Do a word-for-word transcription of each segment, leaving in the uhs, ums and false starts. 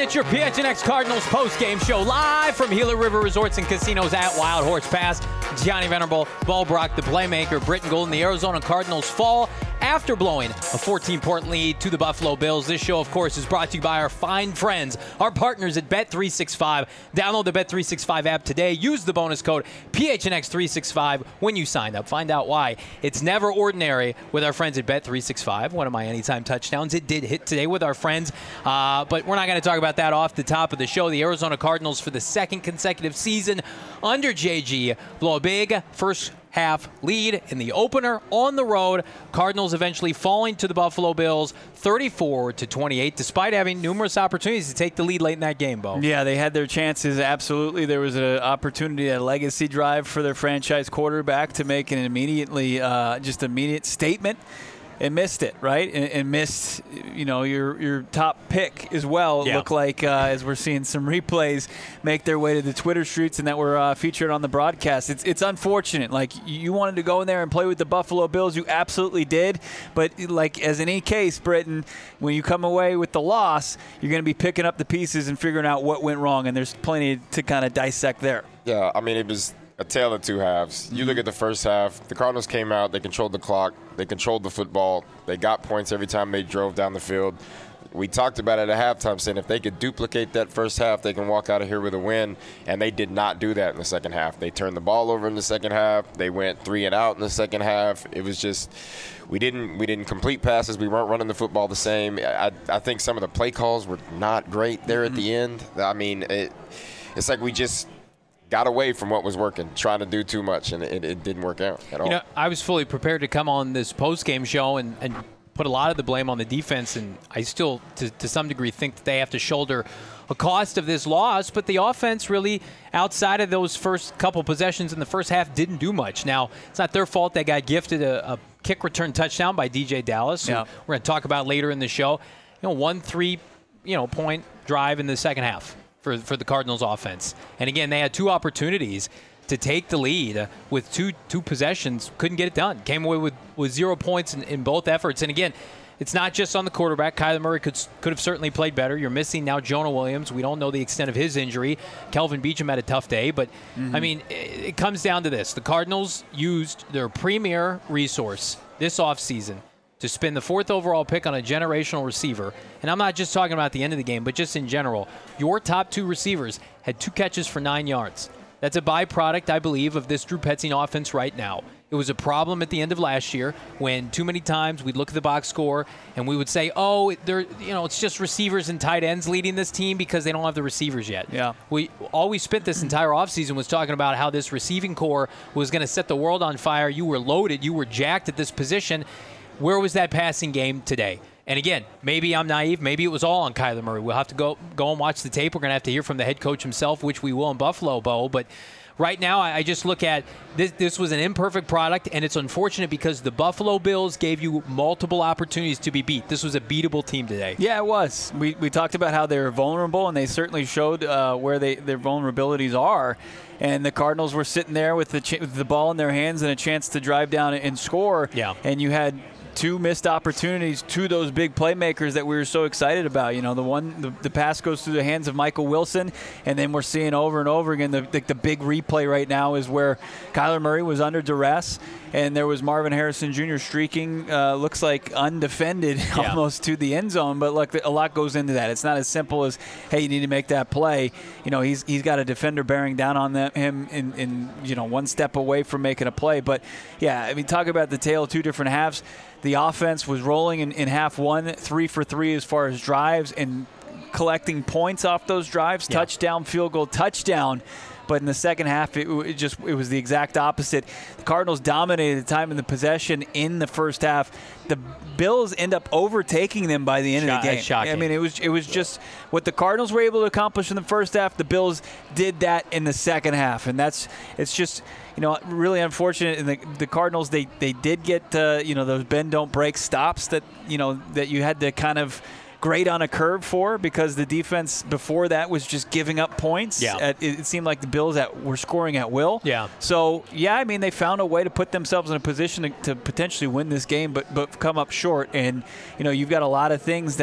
It's your P H N X Cardinals post-game show live from Gila River Resorts and Casinos at Wild Horse Pass. Johnny Venerable, Bo Brock, the playmaker, Britton Golden, the Arizona Cardinals fall after blowing a fourteen-point lead to the Buffalo Bills. This show, of course, is brought to you by our fine friends, our partners at Bet three sixty-five. Download the Bet three sixty-five app today. Use the bonus code P H N X three sixty-five when you sign up. Find out why. It's never ordinary with our friends at Bet three sixty-five. One of my anytime touchdowns. It did hit today with our friends, uh, but we're not going to talk about that off the top of the show. The Arizona Cardinals, for the second consecutive season under J G, blow a big first half lead in the opener on the road. Cardinals eventually falling to the Buffalo Bills thirty-four to twenty-eight, despite having numerous opportunities to take the lead late in that game, Bo. Yeah, they had their chances, absolutely. There was an opportunity, a legacy drive for their franchise quarterback to make an immediately, uh, just immediate statement. And missed it, right? And, and missed, you know, your your top pick as well. It yeah. looked like, uh, as we're seeing some replays make their way to the Twitter streets and that were uh, featured on the broadcast. It's it's unfortunate. Like, you wanted to go in there and play with the Buffalo Bills. You absolutely did. But, like, as in any case, Britton, when you come away with the loss, you're going to be picking up the pieces and figuring out what went wrong. And there's plenty to kind of dissect there. Yeah, I mean, it was a tale of two halves. You look at the first half, the Cardinals came out, they controlled the clock, they controlled the football, they got points every time they drove down the field. We talked about it at halftime, saying if they could duplicate that first half, they can walk out of here with a win, and they did not do that in the second half. They turned the ball over in the second half. They went three and out in the second half. It was just we didn't we didn't complete passes. We weren't running the football the same. I, I think some of the play calls were not great there at the end. I mean, it, it's like we just – got away from what was working, trying to do too much, and it, it didn't work out at all. You know, I was fully prepared to come on this post-game show and, and put a lot of the blame on the defense, and I still, to, to some degree, think that they have to shoulder a cost of this loss, but the offense really, outside of those first couple possessions in the first half, didn't do much. Now, it's not their fault they got gifted a, a kick return touchdown by D J Dallas, who yeah. we're going to talk about later in the show. You know, one three, you know, point drive in the second half for for the Cardinals offense. And again, they had two opportunities to take the lead with two two possessions, couldn't get it done. Came away with, with zero points in, in both efforts. And again, it's not just on the quarterback. Kyler Murray could could have certainly played better. You're missing now Jonah Williams. We don't know the extent of his injury. Kelvin Beachum had a tough day. But, mm-hmm. I mean, it, it comes down to this. The Cardinals used their premier resource this offseason to spend the fourth overall pick on a generational receiver. And I'm not just talking about the end of the game, but just in general. Your top two receivers had two catches for nine yards. That's a byproduct, I believe, of this Drew Petzing offense right now. It was a problem at the end of last year when too many times we'd look at the box score and we would say, oh, they're, you know, it's just receivers and tight ends leading this team because they don't have the receivers yet. Yeah. We all we spent this entire offseason was talking about how this receiving core was going to set the world on fire. You were loaded. You were jacked at this position. Where was that passing game today? And again, maybe I'm naive. Maybe it was all on Kyler Murray. We'll have to go go and watch the tape. We're going to have to hear from the head coach himself, which we will in Buffalo, Bo. But right now, I just look at this. This was an imperfect product, and it's unfortunate because the Buffalo Bills gave you multiple opportunities to be beat. This was a beatable team today. Yeah, it was. We we talked about how they were vulnerable, and they certainly showed uh, where they their vulnerabilities are. And the Cardinals were sitting there with the ch- with the ball in their hands and a chance to drive down and score. Yeah. And you had two missed opportunities to those big playmakers that we were so excited about. You know, the one, the, the pass goes through the hands of Michael Wilson, and then we're seeing over and over again the, the, the big replay right now is where Kyler Murray was under duress, and there was Marvin Harrison Junior streaking, uh, looks like undefended yeah. almost to the end zone. But look, a lot goes into that. It's not as simple as, hey, you need to make that play. You know, he's he's got a defender bearing down on them, him in, in, you know, one step away from making a play. But, yeah, I mean, talk about the tale of two different halves. The offense was rolling in, in half one, three for three as far as drives and collecting points off those drives, yeah. touchdown, field goal, touchdown. But in the second half, it, it just it was the exact opposite. The Cardinals dominated the time in the possession in the first half. The Bills end up overtaking them by the end Shot, of the game. shocking. I mean, it was it was just what the Cardinals were able to accomplish in the first half. The Bills did that in the second half, and that's it's just you know really unfortunate. And the, the Cardinals they they did get uh, you know those bend don't break stops that you know that you had to kind of grade on a curve for because the defense before that was just giving up points. Yeah. At, it seemed like the Bills at, were scoring at will. Yeah. So, yeah, I mean, they found a way to put themselves in a position to, to potentially win this game, but but come up short. And, you know, you've got a lot of things that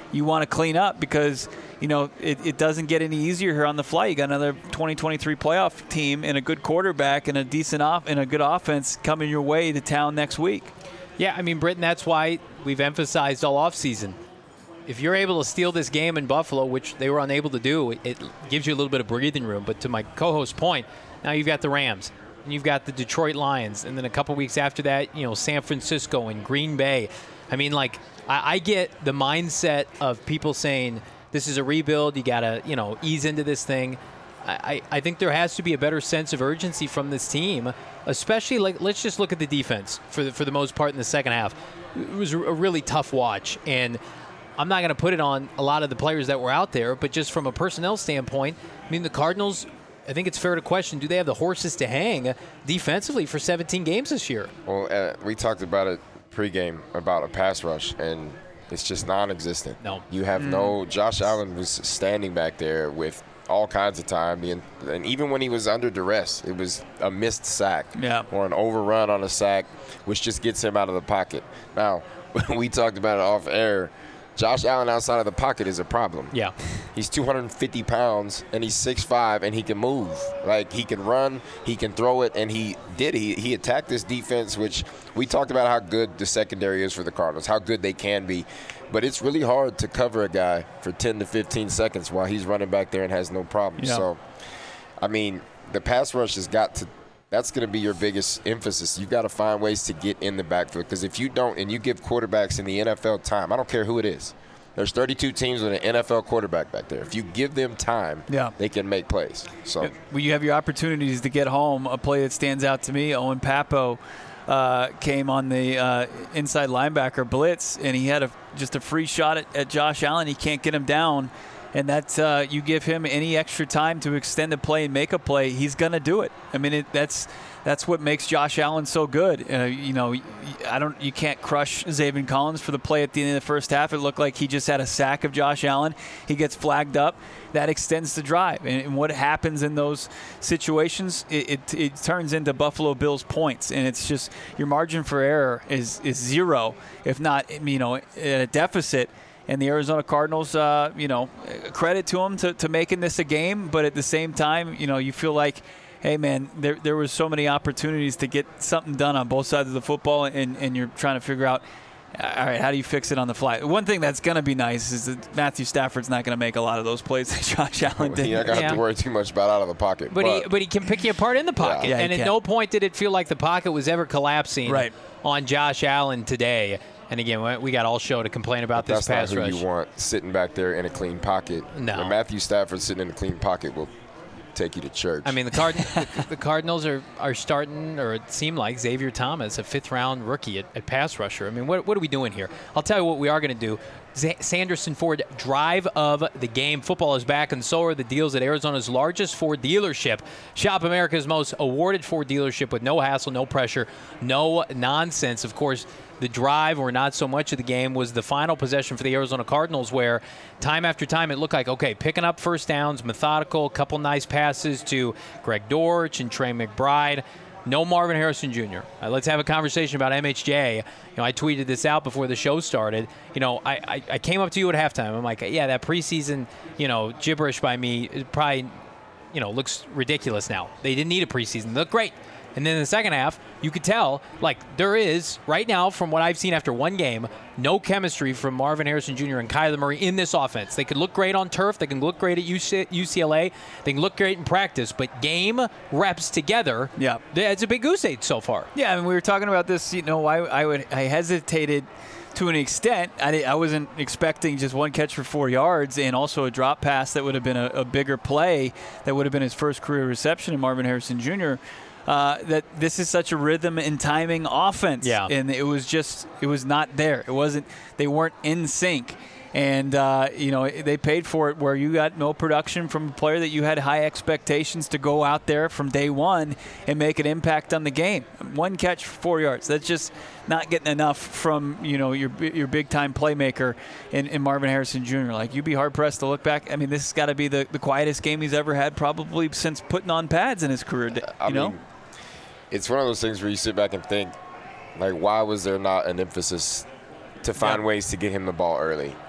you want to clean up because, you know, it, it doesn't get any easier here on the fly. You got another twenty twenty-three playoff team and a good quarterback and a decent off and a good offense coming your way to town next week. Yeah, I mean, Britton, that's why we've emphasized all offseason. If you're able to steal this game in Buffalo, which they were unable to do, it gives you a little bit of breathing room. But to my co-host's point, now you've got the Rams, and you've got the Detroit Lions, and then a couple weeks after that, you know, San Francisco and Green Bay. I mean, like, I, I get the mindset of people saying this is a rebuild, you got to, you know, ease into this thing. I, I think there has to be a better sense of urgency from this team, especially, like, let's just look at the defense for the, for the most part in the second half. It was a really tough watch, and I'm not going to put it on a lot of the players that were out there, but just from a personnel standpoint, I mean, the Cardinals, I think it's fair to question, do they have the horses to hang defensively for seventeen games this year? Well, uh, we talked about it pregame about a pass rush, and it's just non-existent. No. You have mm. no – Josh Allen was standing back there with all kinds of time, and, and even when he was under duress, it was a missed sack yeah. or an overrun on a sack, which just gets him out of the pocket. Now, we talked about it off air. Josh Allen outside of the pocket is a problem. Yeah. He's two hundred fifty pounds, and he's six five, and he can move. Like, he can run, he can throw it, and he did. He, he attacked this defense, which we talked about how good the secondary is for the Cardinals, how good they can be. But it's really hard to cover a guy for ten to fifteen seconds while he's running back there and has no problem. Yeah. So, I mean, the pass rush has got to – that's going to be your biggest emphasis. You've got to find ways to get in the backfield, because if you don't and you give quarterbacks in the N F L time, I don't care who it is. There's thirty-two teams with an N F L quarterback back there. If you give them time, yeah. they can make plays. So when you have your opportunities to get home, a play that stands out to me, Owen Papo uh, came on the uh, inside linebacker blitz, and he had a, just a free shot at, at Josh Allen. He can't get him down. And that uh, you give him any extra time to extend a play and make a play, he's going to do it. I mean, it, that's that's what makes Josh Allen so good. Uh, you know, I don't. You can't crush Zaven Collins for the play at the end of the first half. It looked like he just had a sack of Josh Allen. He gets flagged up. That extends the drive. And, and what happens in those situations, it, it, it turns into Buffalo Bills points. And it's just your margin for error is is zero, if not, you know, at a deficit. And the Arizona Cardinals, uh, you know, credit to them to, to making this a game. But at the same time, you know, you feel like, hey, man, there there was so many opportunities to get something done on both sides of the football, and, and you're trying to figure out, all right, how do you fix it on the fly? One thing that's going to be nice is that Matthew Stafford's not going to make a lot of those plays that Josh Allen did. You're not going to have to worry too much about out of the pocket. But, but, he, but he can pick you apart in the pocket. Yeah. Yeah, and at can. no point did it feel like the pocket was ever collapsing right. on Josh Allen today. And again, we got all show to complain about but this pass rush. That's not who rush. you want sitting back there in a clean pocket. No. When Matthew Stafford sitting in a clean pocket will take you to church. I mean, the, Card- the, the Cardinals are, are starting, or it seemed like, Xavier Thomas, a fifth-round rookie at, at pass rusher. I mean, what, what are we doing here? I'll tell you what we are going to do. Z- Sanderson Ford drive of the game. Football is back, and so are the deals at Arizona's largest Ford dealership. Shop America's most awarded Ford dealership with no hassle, no pressure, no nonsense. Of course, the drive, or not so much of the game, was the final possession for the Arizona Cardinals, where time after time it looked like, okay, picking up first downs, methodical, couple nice passes to Greg Dortch and Trey McBride. No Marvin Harrison Junior Uh, let's have a conversation about M H J. You know, I tweeted this out before the show started. You know, I, I, I came up to you at halftime. I'm like, yeah, that preseason, you know, gibberish by me, it probably, you know, looks ridiculous now. They didn't need a preseason. They look great. And then in the second half, you could tell, like, there is, right now, from what I've seen after one game, no chemistry from Marvin Harrison Junior and Kyler Murray in this offense. They could look great on turf. They can look great at U C L A. They can look great in practice. But game reps together, yeah, it's a big goose egg so far. Yeah, I mean, we were talking about this, you know, I, I, would, I hesitated to an extent. I, I wasn't expecting just one catch for four yards and also a drop pass that would have been a, a bigger play that would have been his first career reception in Marvin Harrison Junior Uh, that this is such a rhythm and timing offense. Yeah. And it was just, it was not there. It wasn't, they weren't in sync. And, uh, you know, they paid for it where you got no production from a player that you had high expectations to go out there from day one and make an impact on the game. One catch for four yards. That's just not getting enough from, you know, your your big-time playmaker in, in Marvin Harrison Junior Like, you'd be hard-pressed to look back. I mean, this has got to be the, the quietest game he's ever had probably since putting on pads in his career, you I know? Mean, it's one of those things where you sit back and think, like, why was there not an emphasis to find yeah. ways to get him the ball early?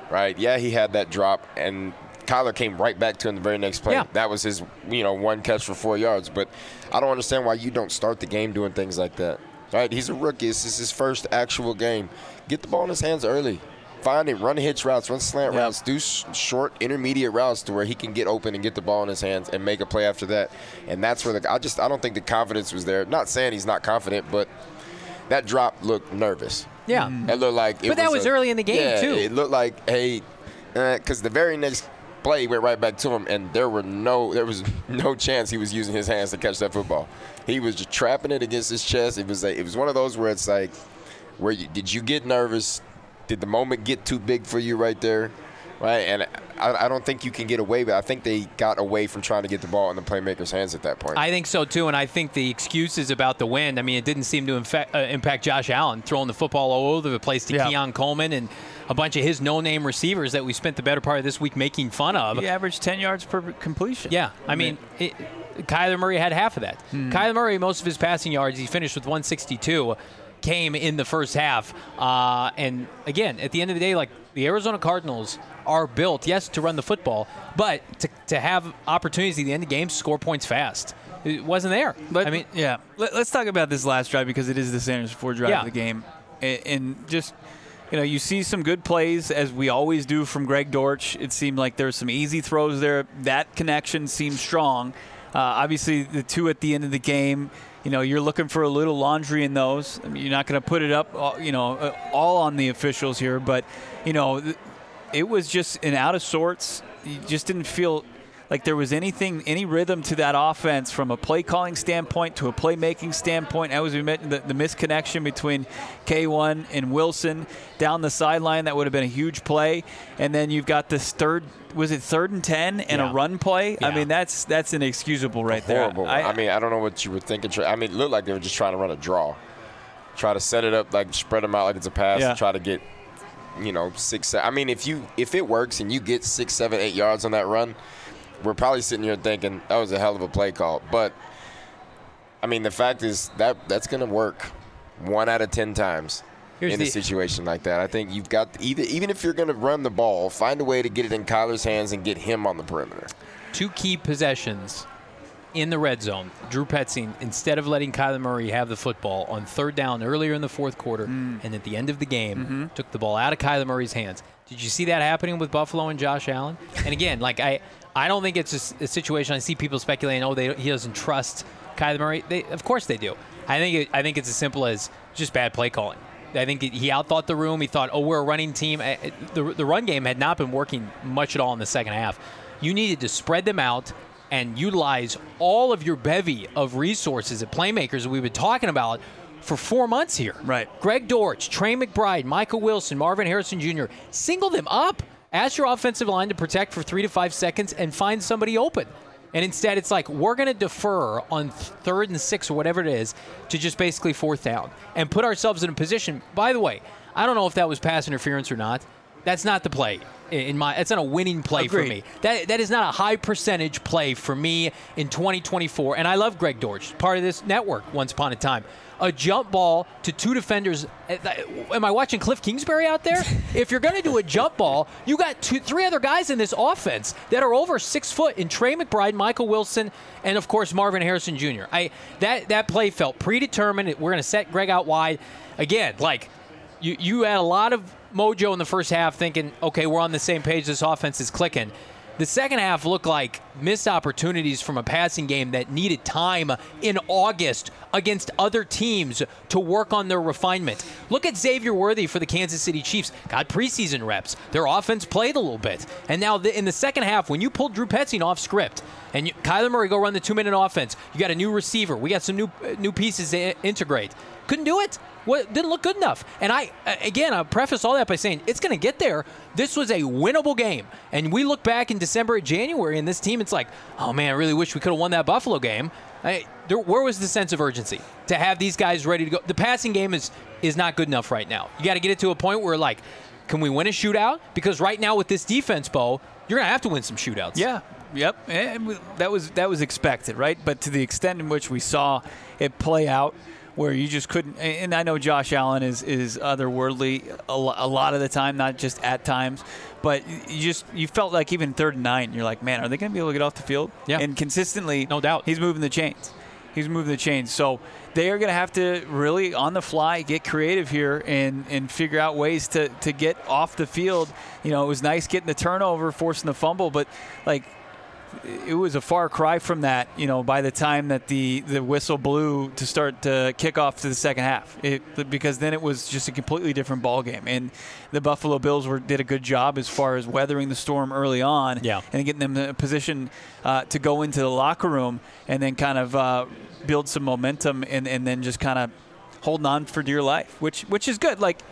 right? Yeah, he had that drop, and Kyler came right back to him the very next play. Yeah. That was his, you know, one catch for four yards. But I don't understand why you don't start the game doing things like that. Right? He's a rookie. This is his first actual game. Get the ball in his hands early. Find it. Run hitch routes. Run slant yeah. routes. Do sh- short, intermediate routes to where he can get open and get the ball in his hands and make a play after that. And that's where the I just I don't think the confidence was there. Not saying he's not confident, but that drop looked nervous. Yeah. It looked like it But that was a, early in the game, yeah, too. It looked like, hey, because uh, the very next play went right back to him, and there were no there was no chance he was using his hands to catch that football. He was just trapping it against his chest. It was a, it was one of those where it's like, where you, did you get nervous? Did the moment get too big for you right there? Right? And I, I don't think you can get away with it. I think they got away from trying to get the ball in the playmaker's hands at that point. I think so, too, and I think the excuses about the wind, I mean, it didn't seem to infect, uh, impact Josh Allen, throwing the football all over the place to yeah. Keon Coleman and a bunch of his no-name receivers that we spent the better part of this week making fun of. He averaged ten yards per completion. Yeah, I mean, it, Kyler Murray had half of that. Hmm. Kyler Murray, most of his passing yards, he finished with one sixty-two, came in the first half. Uh, and, again, at the end of the day, like, the Arizona Cardinals are built, yes, to run the football, but to, to have opportunities at the end of games, score points fast. It wasn't there. But, I mean, yeah. Let, let's talk about this last drive because it is the Sanders Ford drive Yeah. of the game. And, and just, you know, you see some good plays, as we always do from Greg Dortch. It seemed like there were some easy throws there. That connection seemed strong. Uh, obviously, the two at the end of the game, you know, you're looking for a little laundry in those. I mean, you're not going to put it up, all- you know, uh, all on the officials here. But, you know, th- it was just an out of sorts. You just didn't feel like there was anything, any rhythm to that offense from a play calling standpoint to a playmaking standpoint. As we mentioned, the, the misconnection between K one and Wilson down the sideline, that would have been a huge play. And then you've got this third, was it third and ten and Yeah. a run play? Yeah. I mean, that's that's inexcusable right Horrible. there. I, I mean, I don't know what you were thinking. I mean, it looked like they were just trying to run a draw. Try to set it up, like spread them out like it's a pass Yeah. and try to get, you know, six, seven. I mean, if you if it works and you get six, seven, eight yards on that run, we're probably sitting here thinking that was a hell of a play call. But, I mean, the fact is that that's going to work one out of ten times Here's in the- a situation like that. I think you've got, even, even if you're going to run the ball, find a way to get it in Kyler's hands and get him on the perimeter. two key possessions in the red zone. Drew Petzing, instead of letting Kyler Murray have the football on third down earlier in the fourth quarter Mm. and at the end of the game, Mm-hmm. took the ball out of Kyler Murray's hands. Did you see that happening with Buffalo and Josh Allen? And again, like I, I don't think it's a, s- a situation. I see people speculating, oh, they, he doesn't trust Kyler Murray. They, of course they do. I think it, I think it's as simple as just bad play calling. I think he outthought the room. He thought, oh, we're a running team. Uh, The, the run game had not been working much at all in the second half. You needed to spread them out and utilize all of your bevy of resources at playmakers that we've been talking about for four months here. Right. Greg Dortch, Trey McBride, Michael Wilson, Marvin Harrison Junior Single them up. Ask your offensive line to protect for three to five seconds and find somebody open. And instead, it's like, we're going to defer on third and six or whatever it is to just basically fourth down and put ourselves in a position. By the way, I don't know if that was pass interference or not. That's not the play. In my, it's not a winning play Agreed. for me. That that is not a high percentage play for me in twenty twenty-four. And I love Greg Dortch, part of this network once upon a time. A jump ball to two defenders. Am I watching Cliff Kingsbury out there? If you're going to do a jump ball, you got two, three other guys in this offense that are over six foot in Trey McBride, Michael Wilson, and of course Marvin Harrison Junior I that that play felt predetermined. We're going to set Greg out wide again. Like you, you had a lot of mojo in the first half, thinking, okay, we're on the same page. This offense is clicking. The second half looked like missed opportunities from a passing game that needed time in August against other teams to work on their refinement. Look at Xavier Worthy for the Kansas City Chiefs. Got preseason reps. Their offense played a little bit. And now the, in the second half, when you pulled Drew Petzing off script and you, Kyler Murray go run the two-minute offense, you got a new receiver. We got some new uh, new pieces to integrate. Couldn't do it. What, didn't look good enough. And I, again, I'll preface all that by saying it's going to get there. This was a winnable game. And we look back in December and January, and this team, it's like, oh, man, I really wish we could have won that Buffalo game. I, there, where was the sense of urgency to have these guys ready to go? The passing game is is not good enough right now. You got to get it to a point where, like, can we win a shootout? Because right now with this defense, Bo, you're going to have to win some shootouts. Yeah. Yep. And that was that was expected, right? But to the extent in which we saw it play out, where you just couldn't. And I know Josh Allen is is otherworldly a, a lot of the time, not just at times. But you just you felt like even third and nine, you're like, man, are they going to be able to get off the field? Yeah. And consistently, no doubt, he's moving the chains. He's moving the chains. So they are going to have to really, on the fly, get creative here and, and figure out ways to, to get off the field. You know, it was nice getting the turnover, forcing the fumble, but, like, it was a far cry from that, you know, by the time that the, the whistle blew to start to kick off to the second half. It, because then it was just a completely different ball game. And the Buffalo Bills were did a good job as far as weathering the storm early on yeah. and getting them in a position uh, to go into the locker room and then kind of uh, build some momentum and, and then just kind of holding on for dear life, which which is good. Like,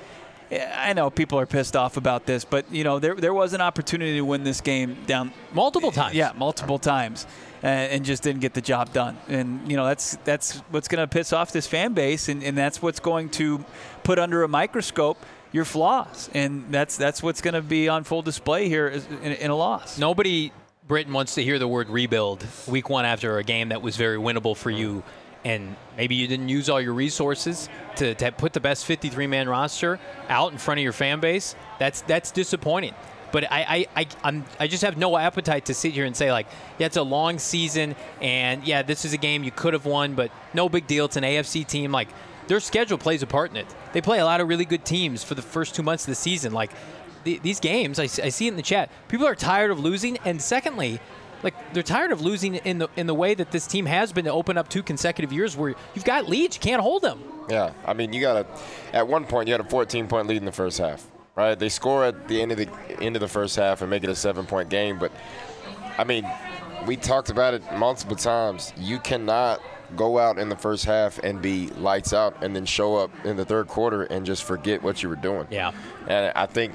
I know people are pissed off about this, but, you know, there there was an opportunity to win this game down multiple times. Yeah, multiple times, and, and just didn't get the job done. And, you know, that's that's what's going to piss off this fan base, and, and that's what's going to put under a microscope your flaws. And that's that's what's going to be on full display here in, in a loss. Nobody, Britain, wants to hear the word rebuild week one after a game that was very winnable for you. And maybe you didn't use all your resources to, to put the best fifty-three man roster out in front of your fan base. That's that's disappointing. But I I, I, I'm, I just have no appetite to sit here and say, like, yeah, it's a long season, and, yeah, this is a game you could have won, but no big deal. It's an A F C team. Like, their schedule plays a part in it. They play a lot of really good teams for the first two months of the season. Like, the, these games, I, I see it in the chat, people are tired of losing, and secondly, like, they're tired of losing in the in the way that this team has been to open up two consecutive years where you've got leads, you can't hold them. Yeah, I mean, you got to. At one point, you had a fourteen point lead in the first half, right? They score at the end of the end of the first half and make it a seven point game. But I mean, we talked about it multiple times. You cannot go out in the first half and be lights out and then show up in the third quarter and just forget what you were doing. Yeah, and I think.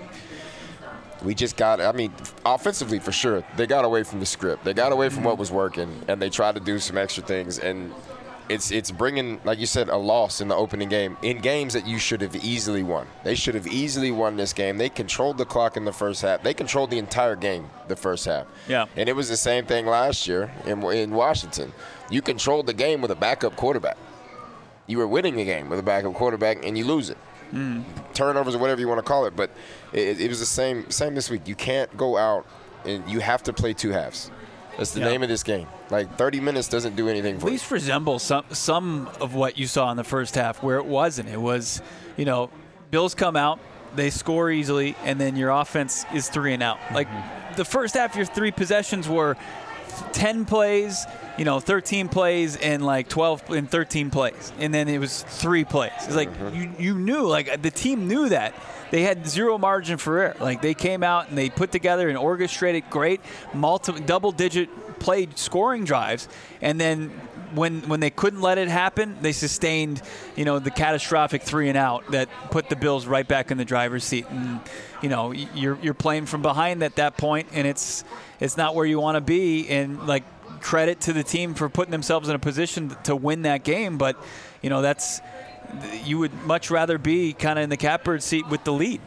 We just got, I mean, offensively for sure, they got away from the script. They got away from what was working, and they tried to do some extra things. And it's it's bringing, like you said, a loss in the opening game in games that you should have easily won. They should have easily won this game. They controlled the clock in the first half. They controlled the entire game the first half. Yeah. And it was the same thing last year in, in Washington. You controlled the game with a backup quarterback. You were winning the game with a backup quarterback, and you lose it. Mm. Turnovers or whatever you want to call it, but it, it was the same same this week. You can't go out and you have to play two halves. That's the yeah. name of this game. Like, thirty minutes doesn't do anything for At least you. resemble some some of what you saw in the first half, where it wasn't. It was, you know, Bills come out, they score easily, and then your offense is three and out. Like, mm-hmm. the first half, your three possessions were ten plays, you know, thirteen plays, and like twelve and thirteen plays, and then it was three plays. It's like mm-hmm. you you knew, like, the team knew that they had zero margin for error. Like, they came out and they put together and orchestrated great multi double digit play scoring drives, and then when when they couldn't let it happen, they sustained, you know, the catastrophic three and out that put the Bills right back in the driver's seat. And, you know, you're you're playing from behind at that point, and it's it's not where you want to be. And, like, credit to the team for putting themselves in a position to win that game, but, you know, that's you would much rather be kind of in the catbird seat with the lead.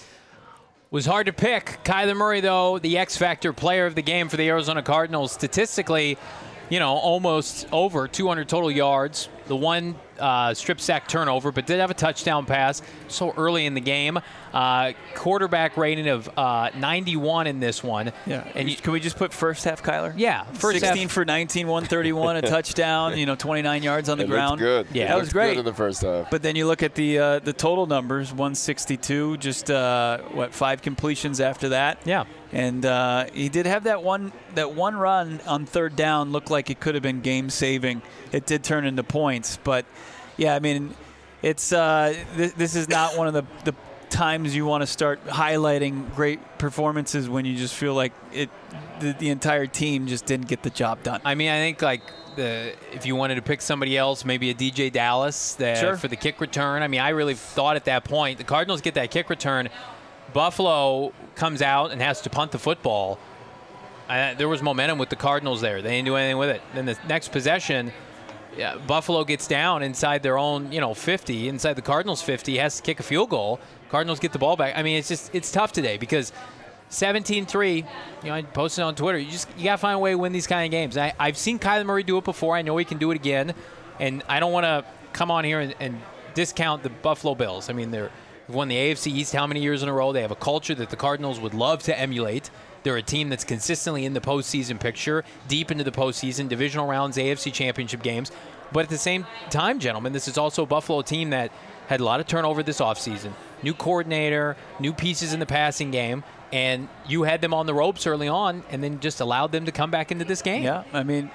Was hard to pick. Kyler Murray, though, the X-Factor player of the game for the Arizona Cardinals. Statistically, you know, almost over two hundred total yards. The one uh, strip sack turnover, but did have a touchdown pass so early in the game. Uh, quarterback rating of uh, ninety-one in this one. Yeah. And you, can we just put first half, Kyler? Yeah. First sixteen half. For nineteen, one thirty-one, a touchdown, you know, twenty-nine yards on the it ground. Good. Yeah. It that was great. Good in the first half. But then you look at the uh, the total numbers, one sixty-two, just, uh, what, five completions after that. Yeah. And uh, he did have that one that one run on third down, looked like it could have been game-saving. It did turn into points. But, yeah, I mean, it's uh, th- this is not one of the, the times you want to start highlighting great performances when you just feel like it the, the entire team just didn't get the job done. I mean, I think, like, the if you wanted to pick somebody else, maybe a D J Dallas that, sure. for the kick return. I mean, I really thought at that point, the Cardinals get that kick return. Buffalo comes out and has to punt the football. Uh, there was momentum with the Cardinals there. They didn't do anything with it. Then the next possession, yeah, Buffalo gets down inside their own, you know, fifty, inside the Cardinals fifty, has to kick a field goal. Cardinals get the ball back. I mean, it's just it's tough today because seventeen three, you know, I posted on Twitter. You just you got to find a way to win these kind of games. I, I've seen Kyler Murray do it before. I know he can do it again. And I don't want to come on here and, and discount the Buffalo Bills. I mean, they're they've won the A F C East how many years in a row? They have a culture that the Cardinals would love to emulate. They're a team that's consistently in the postseason picture, deep into the postseason, divisional rounds, A F C championship games. But at the same time, gentlemen, this is also a Buffalo team that had a lot of turnover this offseason. New coordinator, new pieces in the passing game. And you had them on the ropes early on and then just allowed them to come back into this game. Yeah, I mean,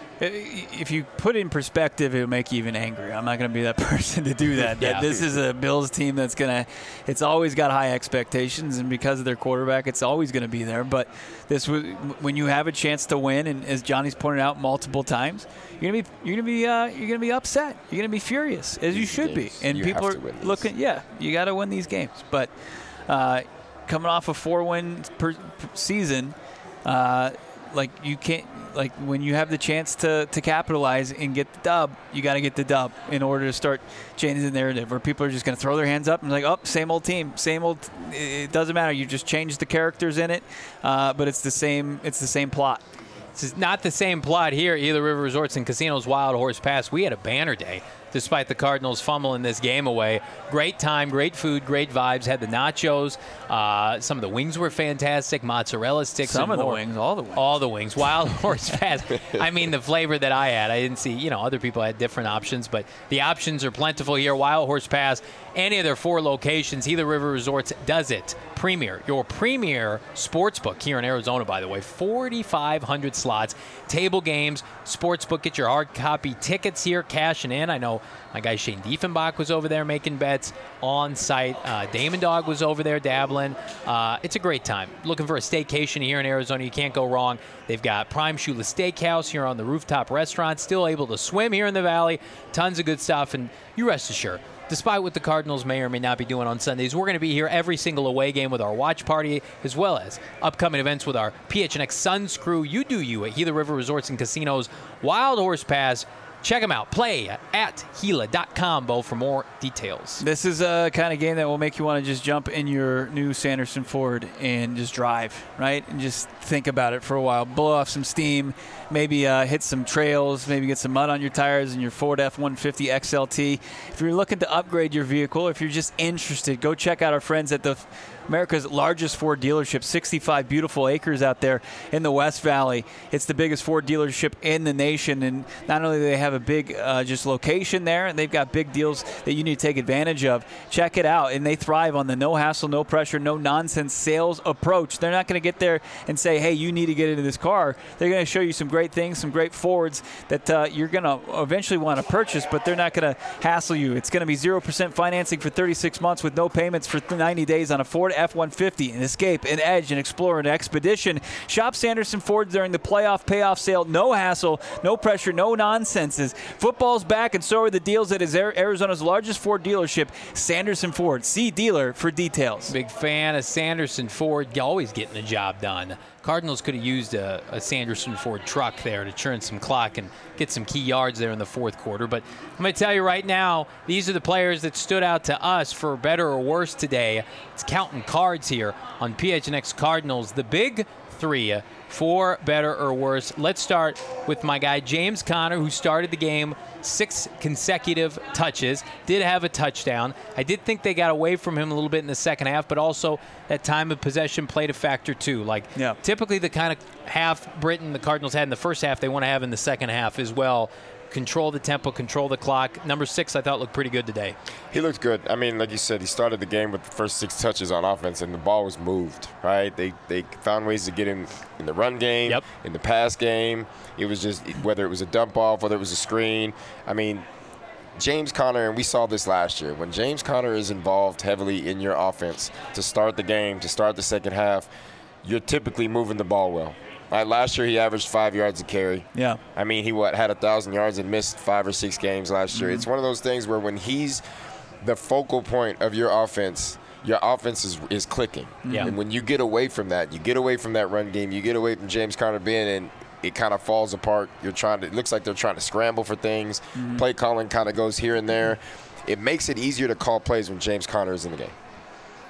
if you put it in perspective, it'll make you even angrier. I'm not going to be that person to do that. Yeah. This is a Bills team that's going to – it's always got high expectations, and because of their quarterback, it's always going to be there. But this was when you have a chance to win, and as Johnny's pointed out multiple times, you're going to be you're going to be uh, you're going to be upset. You're going to be furious, as you should be. And you people have to are win looking – yeah, you got to win these games. But uh, – coming off a four-win per, per season, uh, like you can't, like when you have the chance to, to capitalize and get the dub, you got to get the dub in order to start changing the narrative. Where people are just going to throw their hands up and like, oh, same old team, same old. It doesn't matter. You just change the characters in it, uh, but it's the same. It's the same plot. It's not the same plot here. Gila River Resorts and Casinos Wild Horse Pass. We had a banner day despite the Cardinals fumbling this game away. Great time, great food, great vibes. Had the nachos. Uh, some of the wings were fantastic. Mozzarella sticks. Some and of more. the wings, all the wings. All the wings. Wild Horse Pass. I mean, the flavor that I had. I didn't see, you know, other people had different options, but the options are plentiful here. Wild Horse Pass, any of their four locations. Gila River Resorts does it. Premier, your premier sportsbook here in Arizona, by the way. forty-five hundred slots, table games, sportsbook. Get your hard copy tickets here, cashing in. I know my guy Shane Diefenbach was over there making bets on site. Uh, Damon Dog was over there dabbling. Uh, it's a great time. Looking for a staycation here in Arizona, you can't go wrong. They've got Prime Shula Steakhouse here on the rooftop restaurant. Still able to swim here in the valley. Tons of good stuff, and you rest assured, despite what the Cardinals may or may not be doing on Sundays, we're going to be here every single away game with our watch party, as well as upcoming events with our P H N X Suns crew. You do you at Gila River Resorts and Casinos. Wild Horse Pass. Check them out. Play at Gila dot com, Bo, for more details. This is a kind of game that will make you want to just jump in your new Sanderson Ford and just drive, right? And just think about it for a while. Blow off some steam, maybe uh, hit some trails, maybe get some mud on your tires in your Ford F one fifty X L T. If you're looking to upgrade your vehicle, if you're just interested, go check out our friends at the America's largest Ford dealership, sixty-five beautiful acres out there in the West Valley. It's the biggest Ford dealership in the nation, and not only do they have a big uh, just location there, and they've got big deals that you need to take advantage of. Check it out, and they thrive on the no hassle, no pressure, no nonsense sales approach. They're not going to get there and say, hey, you need to get into this car. They're going to show you some great things, some great Fords that uh, you're going to eventually want to purchase, but they're not going to hassle you. It's going to be zero percent financing for thirty-six months with no payments for ninety days on a Ford F one fifty, an Escape, an Edge, an Explorer, an Expedition. Shop Sanderson Ford during the playoff payoff sale. No hassle, no pressure, no nonsenses. Football's back, and so are the deals at Arizona's largest Ford dealership, Sanderson Ford. See dealer for details. Big fan of Sanderson Ford, always getting the job done. Cardinals could have used a, a Sanderson Ford truck there to churn some clock and get some key yards there in the fourth quarter. But I'm going to tell you right now, these are the players that stood out to us for better or worse today. It's counting cards here on P H N X Cardinals. The big three for better or worse. Let's start with my guy James Conner, who started the game six consecutive touches, did have a touchdown. I did think they got away from him a little bit in the second half, but also that time of possession played a factor too. Like yeah. typically the kind of half Britain the Cardinals had in the first half, they want to have in the second half as well. Control the tempo, control the clock. Number six, I thought, looked pretty good today. He looked good. I mean, like you said, he started the game with the first six touches on offense, and the ball was moved, right? They they found ways to get him in the run game, yep. in the pass game. It was just whether it was a dump off, whether it was a screen. I mean, James Conner, and we saw this last year, when James Conner is involved heavily in your offense to start the game, to start the second half, you're typically moving the ball well. Right, last year he averaged five yards a carry. Yeah. I mean, he what had a thousand yards and missed five or six games last year. Mm-hmm. It's one of those things where when he's the focal point of your offense, your offense is, is clicking. Yeah. And when you get away from that, you get away from that run game, you get away from James Conner being in, it kind of falls apart. You're trying to. It looks like they're trying to scramble for things. Mm-hmm. Play calling kind of goes here and there. It makes it easier to call plays when James Conner is in the game.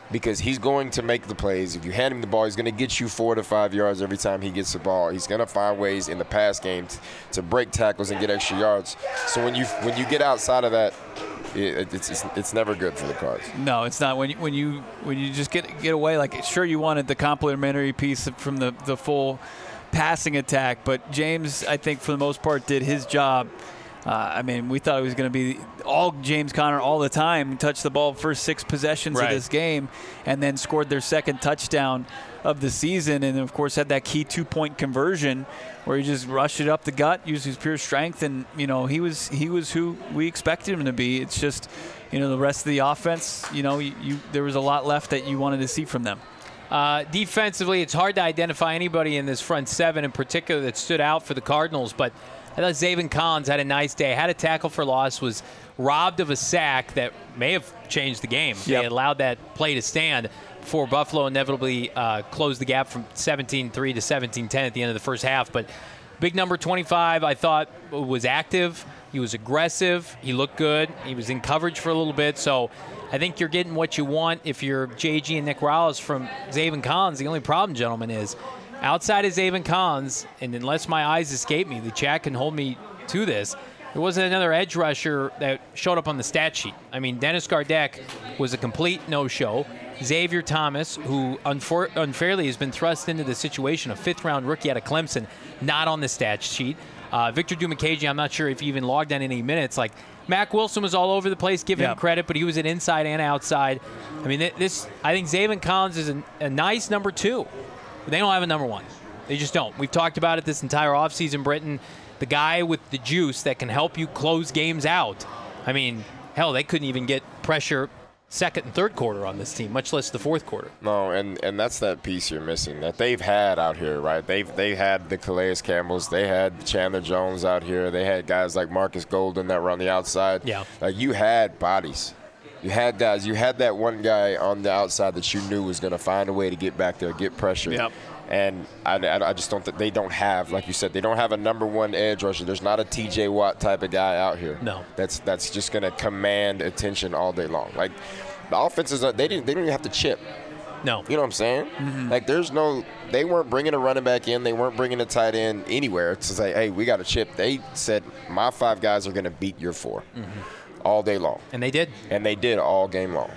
because he's going to make the plays. If you hand him the ball, he's going to get you four to five yards every time he gets the ball. He's going to find ways in the pass game to, to break tackles and get extra yards. So when you when you get outside of that, it, it's, it's it's never good for the Cards. No, it's not. When you when you when you just get get away, like sure you wanted the complementary piece from the the full passing attack, but James, I think for the most part, did his job. Uh, I mean, we thought it was going to be all James Conner all the time, touched the ball first six possessions right. of this game, and then scored their second touchdown of the season, and of course had that key two-point conversion where he just rushed it up the gut, used his pure strength, and you know he was he was who we expected him to be. It's just, you know, the rest of the offense, you know, you, you there was a lot left that you wanted to see from them. Uh, defensively, it's hard to identify anybody in this front seven in particular that stood out for the Cardinals, but I thought Zaven Collins had a nice day. Had a tackle for loss, was robbed of a sack that may have changed the game. Yep. They allowed that play to stand before Buffalo inevitably uh, closed the gap from seventeen three to seventeen ten at the end of the first half. But big number twenty-five, I thought, was active. He was aggressive. He looked good. He was in coverage for a little bit. So I think you're getting what you want if you're J G and Nick Rallis from Zaven Collins. The only problem, gentlemen, is outside of Zaven Collins, and unless my eyes escape me, the chat can hold me to this, there wasn't another edge rusher that showed up on the stat sheet. I mean, Dennis Gardeck was a complete no-show. Xavier Thomas, who unfor- unfairly has been thrust into the situation, a fifth-round rookie out of Clemson, not on the stat sheet. Uh, Victor Dumakaji, I'm not sure if he even logged on any minutes. Like, Mac Wilson was all over the place, give yeah. him credit, but he was at inside and outside. I mean, this. I think Zaven Collins is a, a nice number two. But they don't have a number one. They just don't. We've talked about it this entire offseason, Britton. The guy with the juice that can help you close games out. I mean, hell, they couldn't even get pressure second and third quarter on this team, much less the fourth quarter. No, and, and that's that piece you're missing that they've had out here, right? They've they had the Calais Campbells, they had Chandler Jones out here, they had guys like Marcus Golden that were on the outside. Yeah, like you had bodies. You had guys. You had that one guy on the outside that you knew was going to find a way to get back there, get pressure. Yep. And I, I, I just don't think they don't have, like you said, they don't have a number one edge rusher. There's not a T J Watt type of guy out here. No. That's that's just going to command attention all day long. Like the offenses, they didn't they don't even have to chip. No. You know what I'm saying? Mm-hmm. Like there's no, they weren't bringing a running back in. They weren't bringing a tight end anywhere to say, hey, we got a chip. They said my five guys are going to beat your four. Mm-hmm. All day long. And they did. And they did all game long.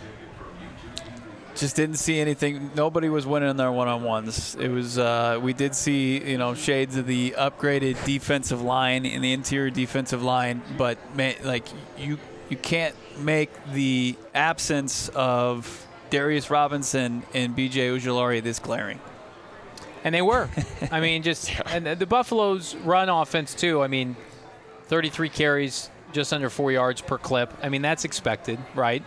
Just didn't see anything. Nobody was winning their one-on-ones. It was uh, we did see, you know, shades of the upgraded defensive line in the interior defensive line, but man, like you you can't make the absence of Darius Robinson and B J Ojulari this glaring. And they were. I mean, just and the Buffalo's run offense too. I mean, thirty-three carries, just under four yards per clip. I mean, that's expected, right?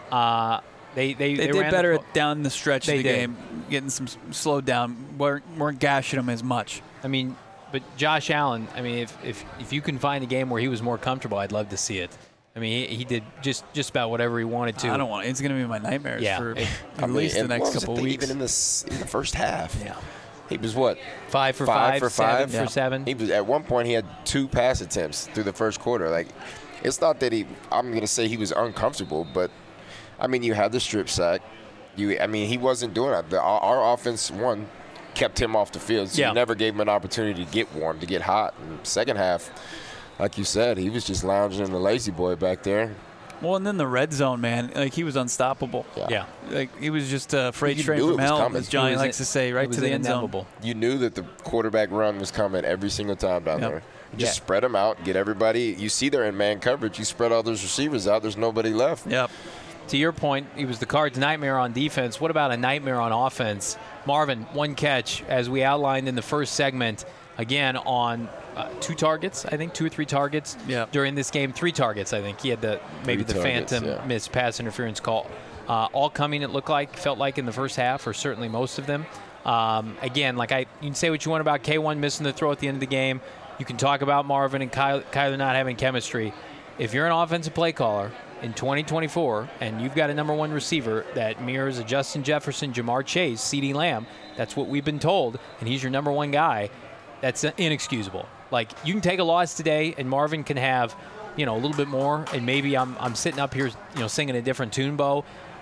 Uh, they they, they, they did ran better the, at down the stretch they of the did. game, getting some slowed down, weren't, weren't gashing them as much. I mean, but Josh Allen, I mean, if, if if you can find a game where he was more comfortable, I'd love to see it. I mean, he, he did just, just about whatever he wanted to. I don't want it. It's going to be my nightmares yeah. for It, at I mean, least the and next what was couple it, of weeks. Even in the, in the first half. Yeah. He was what? Five for five, five, for seven five for yeah. seven. He was at one point he had two pass attempts through the first quarter. Like, it's not that he. I'm gonna say he was uncomfortable, but I mean, you had the strip sack. You, I mean, he wasn't doing it. The, our, our offense one kept him off the field, so yeah. you never gave him an opportunity to get warm, to get hot. And second half, like you said, he was just lounging in the lazy boy back there. Well, and then the red zone, man, like he was unstoppable. Yeah. Yeah. Like he was just a freight You train knew it from was hell, coming. as Johnny It was likes in- to say, right it was to the end zone. inevitable. You knew that the quarterback run was coming every single time down Yep. there. You just Yeah. spread them out, get everybody. You see they're in man coverage. You spread all those receivers out. There's nobody left. Yep. To your point, he was the Cards' nightmare on defense. What about a nightmare on offense? Marvin, one catch, as we outlined in the first segment, again on uh, two targets, I think, two or three targets Yeah. during this game. Three targets, I think. He had the maybe Three the targets, phantom yeah. missed pass interference call. Uh, all coming, it looked like, felt like in the first half, or certainly most of them. Um, again, like I, you can say what you want about K one missing the throw at the end of the game. You can talk about Marvin and Kyler, Kyler not having chemistry. If you're an offensive play caller in twenty twenty-four and you've got a number one receiver that mirrors a Justin Jefferson, Jamar Chase, CeeDee Lamb, that's what we've been told, and he's your number one guy, that's inexcusable. Like, you can take a loss today and Marvin can have, you know, a little bit more, and maybe I'm I'm sitting up here, you know, singing a different tune, Bo, but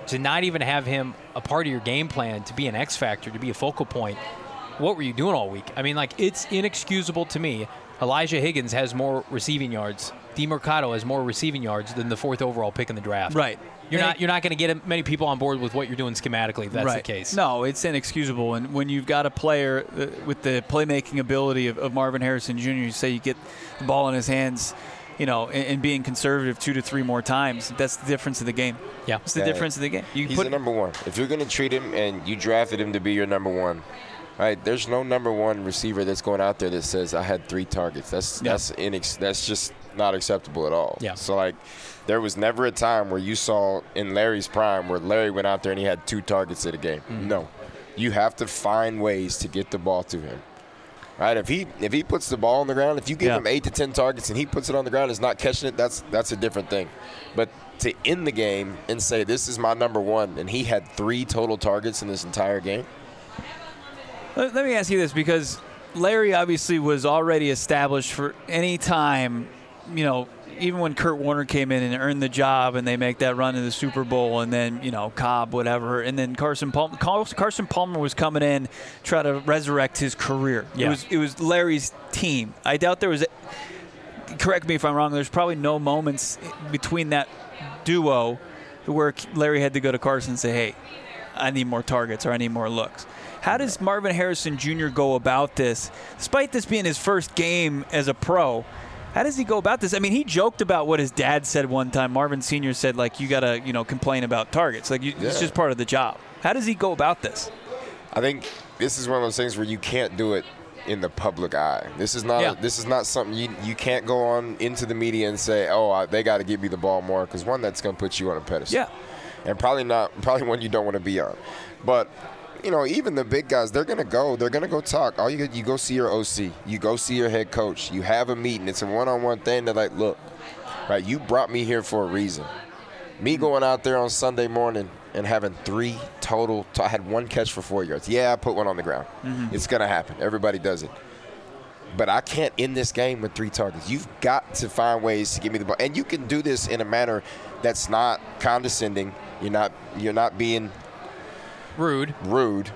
to not even have him a part of your game plan, to be an X factor, to be a focal point, what were you doing all week? I mean, like, it's inexcusable to me. Elijah Higgins has more receiving yards. DeMercado has more receiving yards than the fourth overall pick in the draft. Right. You're not you're not going to get many people on board with what you're doing schematically if that's right. the case. No, it's inexcusable. And when you've got a player uh, with the playmaking ability of, of Marvin Harrison Junior, you say you get the ball in his hands, you know, and, and being conservative two to three more times, that's the difference of the game. Yeah. It's the Yeah. difference of the game. You He's put the number one. If you're going to treat him and you drafted him to be your number one, right? There's no number one receiver that's going out there that says I had three targets. That's Yeah. that's inex- that's just not acceptable at all. Yeah. So like, there was never a time where you saw in Larry's prime where Larry went out there and he had two targets at a game. Mm-hmm. No, you have to find ways to get the ball to him. Right? If he if he puts the ball on the ground, if you give Yeah. him eight to ten targets and he puts it on the ground and is not catching it, that's that's a different thing. But to end the game and say this is my number one, and he had three total targets in this entire game. Let, let me ask you this, because Larry obviously was already established for any time, you know, even when Kurt Warner came in and earned the job and they make that run to the Super Bowl, and then, you know, Cobb, whatever, and then Carson Palmer, Carson Palmer was coming in try to resurrect his career. Yeah. It was it was Larry's team. I doubt there was, a, correct me if I'm wrong, there's probably no moments between that duo where Larry had to go to Carson and say, hey, I need more targets or I need more looks. How does Marvin Harrison Junior go about this, despite this being his first game as a pro? How does he go about this? I mean, he joked about what his dad said one time. Marvin Senior said, like, you got to, you know, complain about targets. Like, you, Yeah. it's just part of the job. How does he go about this? I think this is one of those things where you can't do it in the public eye. This is not Yeah. this is not something you you can't go on into the media and say, oh, I, they got to give me the ball more, because one, that's going to put you on a pedestal. Yeah. And probably not probably one you don't want to be on. But you know, even the big guys, they're going to go. They're going to go talk. All you you go see your O C. You go see your head coach. You have a meeting. It's a one-on-one thing. They're like, look, right, you brought me here for a reason. Me going out there on Sunday morning and having three total – I had one catch for four yards. Yeah, I put one on the ground. Mm-hmm. It's going to happen. Everybody does it. But I can't end this game with three targets. You've got to find ways to give me the ball. And you can do this in a manner that's not condescending. You're not You're not being – Rude. rude.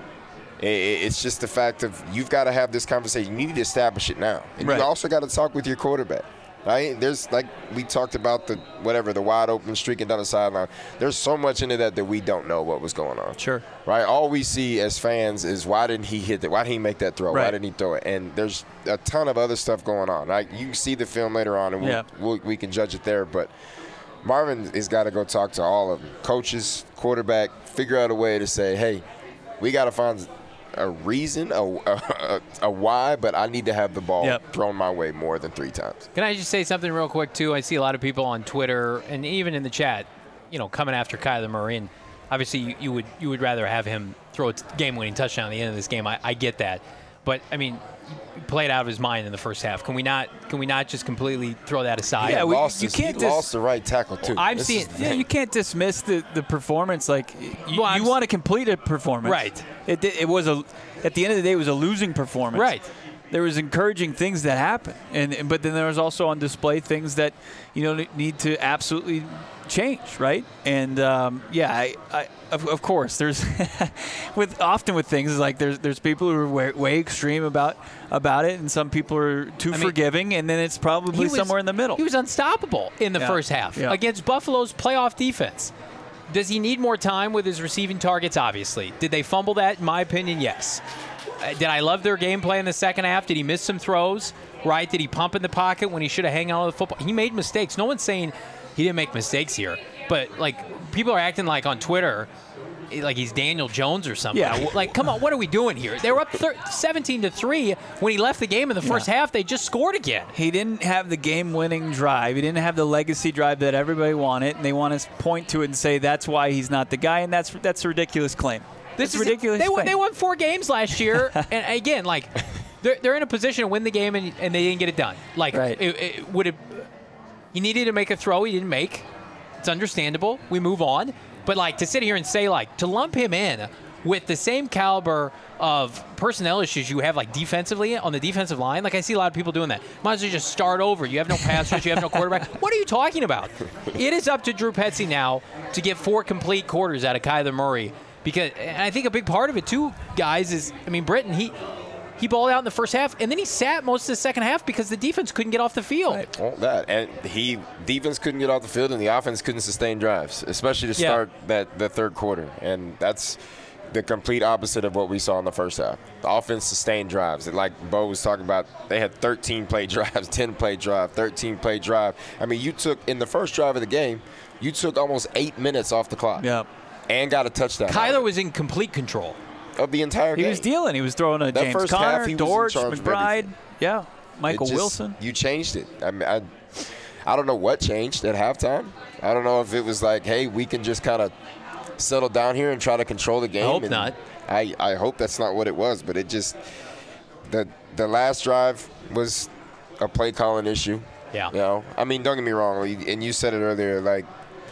It's just the fact of you've got to have this conversation. You need to establish it now. And Right. you also got to talk with your quarterback. Right? There's, like we talked about, the whatever, the wide open streaking down the sideline. There's so much into that that we don't know what was going on. Sure. Right? All we see as fans is why didn't he hit it? Why didn't he make that throw? Right. Why didn't he throw it? And there's a ton of other stuff going on. Right? You can see the film later on, and we'll, Yeah. we'll, we can judge it there. But Marvin has got to go talk to all of them. Coaches, quarterback, figure out a way to say, hey, we got to find a reason, a, a, a why, but I need to have the ball Yep. thrown my way more than three times. Can I just say something real quick, too? I see a lot of people on Twitter and even in the chat, you know, coming after Kyler Murray. And obviously, you, you would you would rather have him throw a game-winning touchdown at the end of this game. I, I get that. But, I mean, he played out of his mind in the first half. Can we not Can we not just completely throw that aside? Yeah, He we- lost you his, can't he dis- lost the right tackle, too. I'm This seeing- is the Yeah, thing. you can't dismiss the, the performance. Like, you, Well, I'm you s- want to complete a performance. Right. It, di- it was a, at the end of the day, it was a losing performance. Right. There was encouraging things that happened, and and- but then there was also on display things that, you know, need to absolutely change, right? And um, yeah, I, I of, of course there's with often with things like there's there's people who are way, way extreme about about it, and some people are too I mean, forgiving, and then it's probably He was- somewhere in the middle. He was unstoppable in the Yeah. first half Yeah. against Buffalo's playoff defense. Does he need more time with his receiving targets? Obviously. Did they fumble that? In my opinion, yes. Uh, Did I love their gameplay in the second half? Did he miss some throws? Right? Did he pump in the pocket when he should have hung out of the football? He made mistakes. No one's saying he didn't make mistakes here. But, like, people are acting like on Twitter, like he's Daniel Jones or something. Yeah. Like, come on, what are we doing here? They were up thir- seventeen to three when he left the game in the first Yeah. half. They just scored again. He didn't have the game-winning drive. He didn't have the legacy drive that everybody wanted, and they want to point to it and say that's why he's not the guy, and that's that's a ridiculous claim. This It's is ridiculous. They won, claim. they won four games last year, and again, like they're they're in a position to win the game, and, and they didn't get it done. Like, Right. it, it would have. He needed to make a throw. He didn't make. It's understandable. We move on. But like to sit here and say like to lump him in with the same caliber of personnel issues you have, like defensively on the defensive line. Like I see a lot of people doing that. Might as well just start over. You have no passers. You have no quarterback. What are you talking about? It is up to Drew Petzing now to get four complete quarters out of Kyler Murray. Because, and I think a big part of it too, guys, is I mean Britton he. He balled out in the first half, and then he sat most of the second half because the defense couldn't get off the field. Right. Well, that and he defense couldn't get off the field, and the offense couldn't sustain drives, especially to start yeah. that the third quarter. And that's the complete opposite of what we saw in the first half. The offense sustained drives. Like Bo was talking about, they had thirteen play drives, ten play drive, thirteen play drive. I mean, you took in the first drive of the game, you took almost eight minutes off the clock. Yeah, and got a touchdown. Kyler was in complete control of the entire game. He was dealing. He was throwing a that James first Conner, half, he Dortch, was in charge McBride, yeah, Michael just, Wilson. You changed it. I mean, I, I don't know what changed at halftime. I don't know if it was like, hey, we can just kind of settle down here and try to control the game. I hope and not. I, I hope that's not what it was, but it just the the last drive was a play calling issue. Yeah. You know, I mean, don't get me wrong, and you said it earlier, like,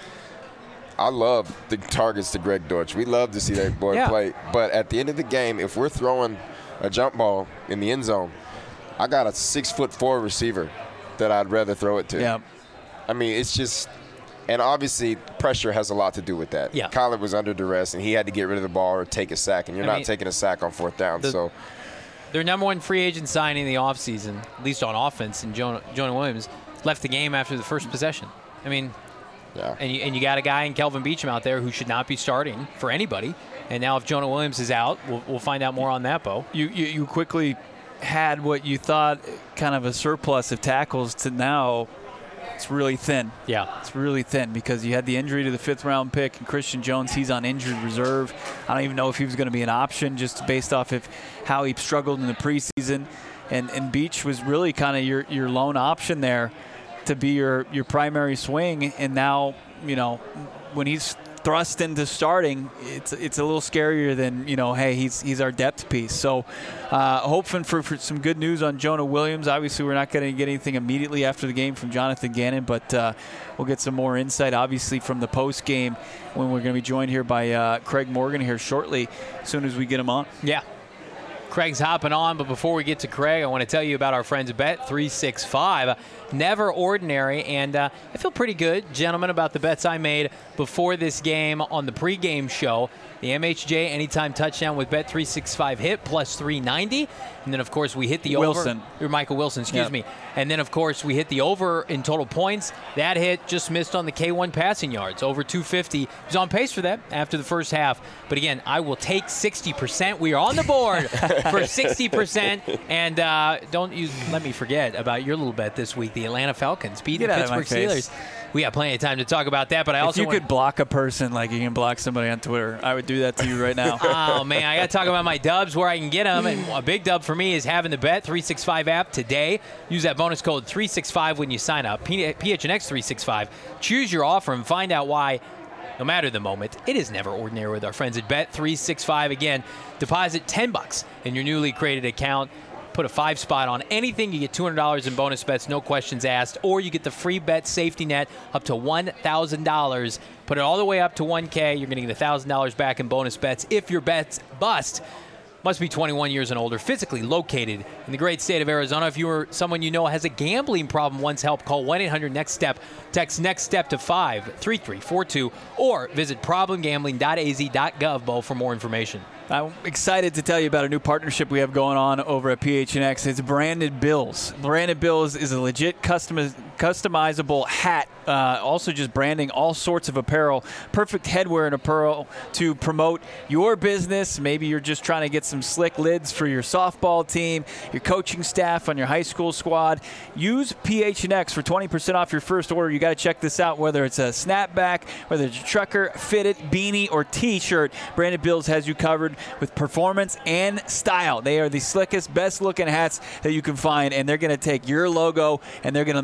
I love the targets to Greg Dortch. We love to see that boy yeah. play. But at the end of the game, if we're throwing a jump ball in the end zone, I got a six foot four receiver that I'd rather throw it to. Yeah. I mean, it's just, and obviously pressure has a lot to do with that. Yeah. Kyler was under duress, and he had to get rid of the ball or take a sack, and you're I not mean, taking a sack on fourth down. The, so their number one free agent signing in the offseason, at least on offense, and Jonah, Jonah Williams, left the game after the first possession. I mean, yeah. and you, and you got a guy in Kelvin Beachum out there who should not be starting for anybody. And now if Jonah Williams is out, we'll, we'll find out more on that, Bo. You, you you quickly had what you thought kind of a surplus of tackles to now it's really thin. Yeah. It's really thin because you had the injury to the fifth round pick and Christian Jones, he's on injured reserve. I don't even know if he was going to be an option just based off of how he struggled in the preseason. And and Beach was really kind of your, your lone option there to be your, your primary swing. And now, you know, when he's thrust into starting, it's it's a little scarier than, you know, hey, he's he's our depth piece. So uh, hoping for, for some good news on Jonah Williams. Obviously, we're not going to get anything immediately after the game from Jonathan Gannon, but uh, we'll get some more insight, obviously, from the post game when we're going to be joined here by uh, Craig Morgan here shortly, as soon as we get him on. Yeah. Craig's hopping on, but before we get to Craig, I want to tell you about our friends at Bet three sixty-five. Never ordinary, and uh, I feel pretty good, gentlemen, about the bets I made before this game on the pregame show. The M H J anytime touchdown with Bet three sixty-five hit plus three ninety, and then of course we hit the Wilson. over. Or Michael Wilson, excuse yep. me. And then of course we hit the over in total points. That hit just missed on the K one passing yards, over two fifty. He was on pace for that after the first half. But again, I will take sixty percent. We are on the board for sixty percent. And uh, don't you let me forget about your little bet this week, the Atlanta Falcons beating the Pittsburgh Steelers. We got plenty of time to talk about that, but I if also you want could block a person like you can block somebody on Twitter, I would do that to you right now. Oh, man, I got to talk about my dubs, where I can get them. And a big dub for me is having the Bet three sixty-five app today. Use that bonus code three sixty-five when you sign up, P H N X three sixty-five. Choose your offer and find out why, no matter the moment, it is never ordinary with our friends at Bet three sixty-five. Again, deposit ten bucks in your newly created account. Put a five spot on anything, you get two hundred dollars in bonus bets, no questions asked, or you get the free bet safety net up to one thousand dollars. Put it all the way up to one K. You're going to get one thousand dollars back in bonus bets if your bets bust. Must be twenty-one years and older, physically located in the great state of Arizona. If you or someone you know has a gambling problem, wants help, call one eight hundred next step. Text NEXT STEP to five three three four two or visit problem gambling dot a z dot gov Bo for more information. I'm excited to tell you about a new partnership we have going on over at P H N X. It's Branded Bills. Branded Bills is a legit customiz- customizable hat, uh, also just branding all sorts of apparel. Perfect headwear and apparel to promote your business. Maybe you're just trying to get some slick lids for your softball team, your coaching staff on your high school squad. Use P H N X for twenty percent off your first order. You got to check this out, whether it's a snapback, whether it's a trucker, fitted, beanie, or T-shirt. Branded Bills has you covered with performance and style. They are the slickest, best-looking hats that you can find, and they're going to take your logo and they're going to make it look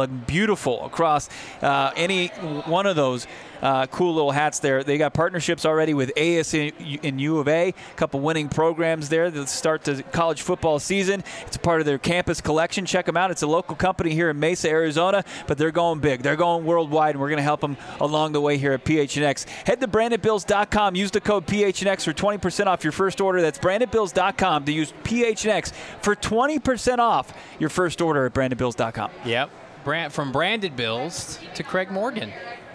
beautiful across uh, any one of those uh, cool little hats there. They got partnerships already with A S U and U of A, a couple winning programs there that start the college football season. It's a part of their campus collection. Check them out. It's a local company here in Mesa, Arizona, but they're going big. They're going worldwide, and we're going to help them along the way here at P H N X. Head to branded bills dot com. Use the code P H N X for twenty percent off your first order. That's branded bills dot com to use P H N X for twenty percent off your first order at branded bills dot com. Yep. Brand, from Branded Bills to Craig Morgan.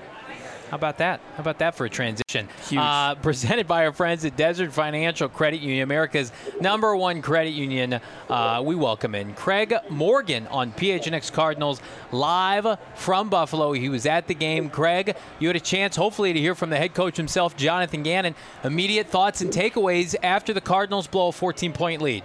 How about that? How about that for a transition? Huge. Uh, presented by our friends at Desert Financial Credit Union, America's number one credit union. Uh, we welcome in Craig Morgan on P H N X Cardinals live from Buffalo. He was at the game. Craig, you had a chance, hopefully, to hear from the head coach himself, Jonathan Gannon. Immediate thoughts and takeaways after the Cardinals blow a fourteen-point lead.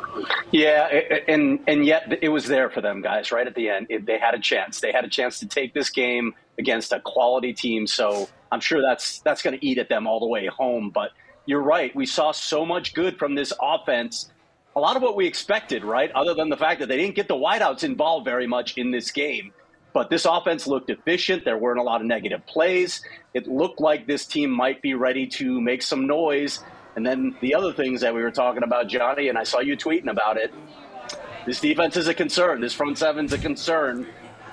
Yeah, and and yet it was there for them, guys, right at the end. It, they had a chance. They had a chance to take this game against a quality team, so I'm sure that's that's going to eat at them all the way home. But you're right. We saw so much good from this offense, a lot of what we expected, right, other than the fact that they didn't get the wideouts involved very much in this game. But this offense looked efficient. There weren't a lot of negative plays. It looked like this team might be ready to make some noise. And then the other things that we were talking about, Johnny, and I saw you tweeting about it, this defense is a concern. This front seven's a concern.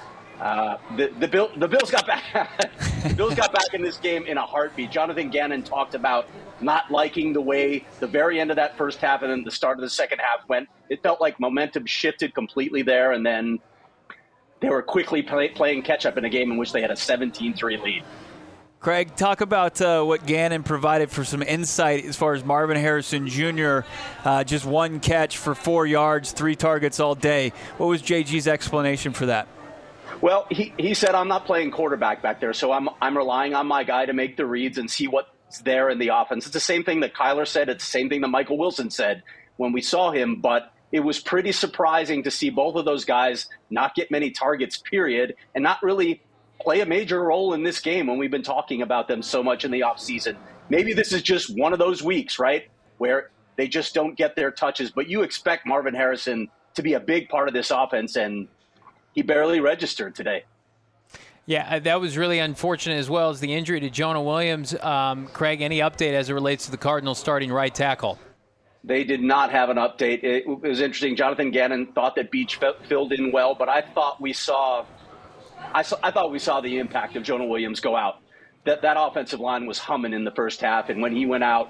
Uh, the, the, Bill, the Bills got back the Bills got back in this game in a heartbeat. Jonathan Gannon talked about not liking the way the very end of that first half and then the start of the second half went. It felt like momentum shifted completely there, and then they were quickly play, playing catch-up in a game in which they had a seventeen three lead. Craig, talk about uh, what Gannon provided for some insight as far as Marvin Harrison Junior Uh, just one catch for four yards, three targets all day. What was J G's explanation for that? Well, he, he said, I'm not playing quarterback back there, so I'm I'm relying on my guy to make the reads and see what's there in the offense. It's the same thing that Kyler said. It's the same thing that Michael Wilson said when we saw him, but it was pretty surprising to see both of those guys not get many targets, period, and not really play a major role in this game when we've been talking about them so much in the offseason. Maybe this is just one of those weeks, right, where they just don't get their touches. But you expect Marvin Harrison to be a big part of this offense, and he barely registered today. Yeah, that was really unfortunate, as well as the injury to Jonah Williams. Um, Craig, any update as it relates to the Cardinals starting right tackle? They did not have an update. It was interesting. Jonathan Gannon thought that Beach filled in well, but I thought we saw – I, saw, I thought we saw the impact of Jonah Williams go out. That that offensive line was humming in the first half, and when he went out,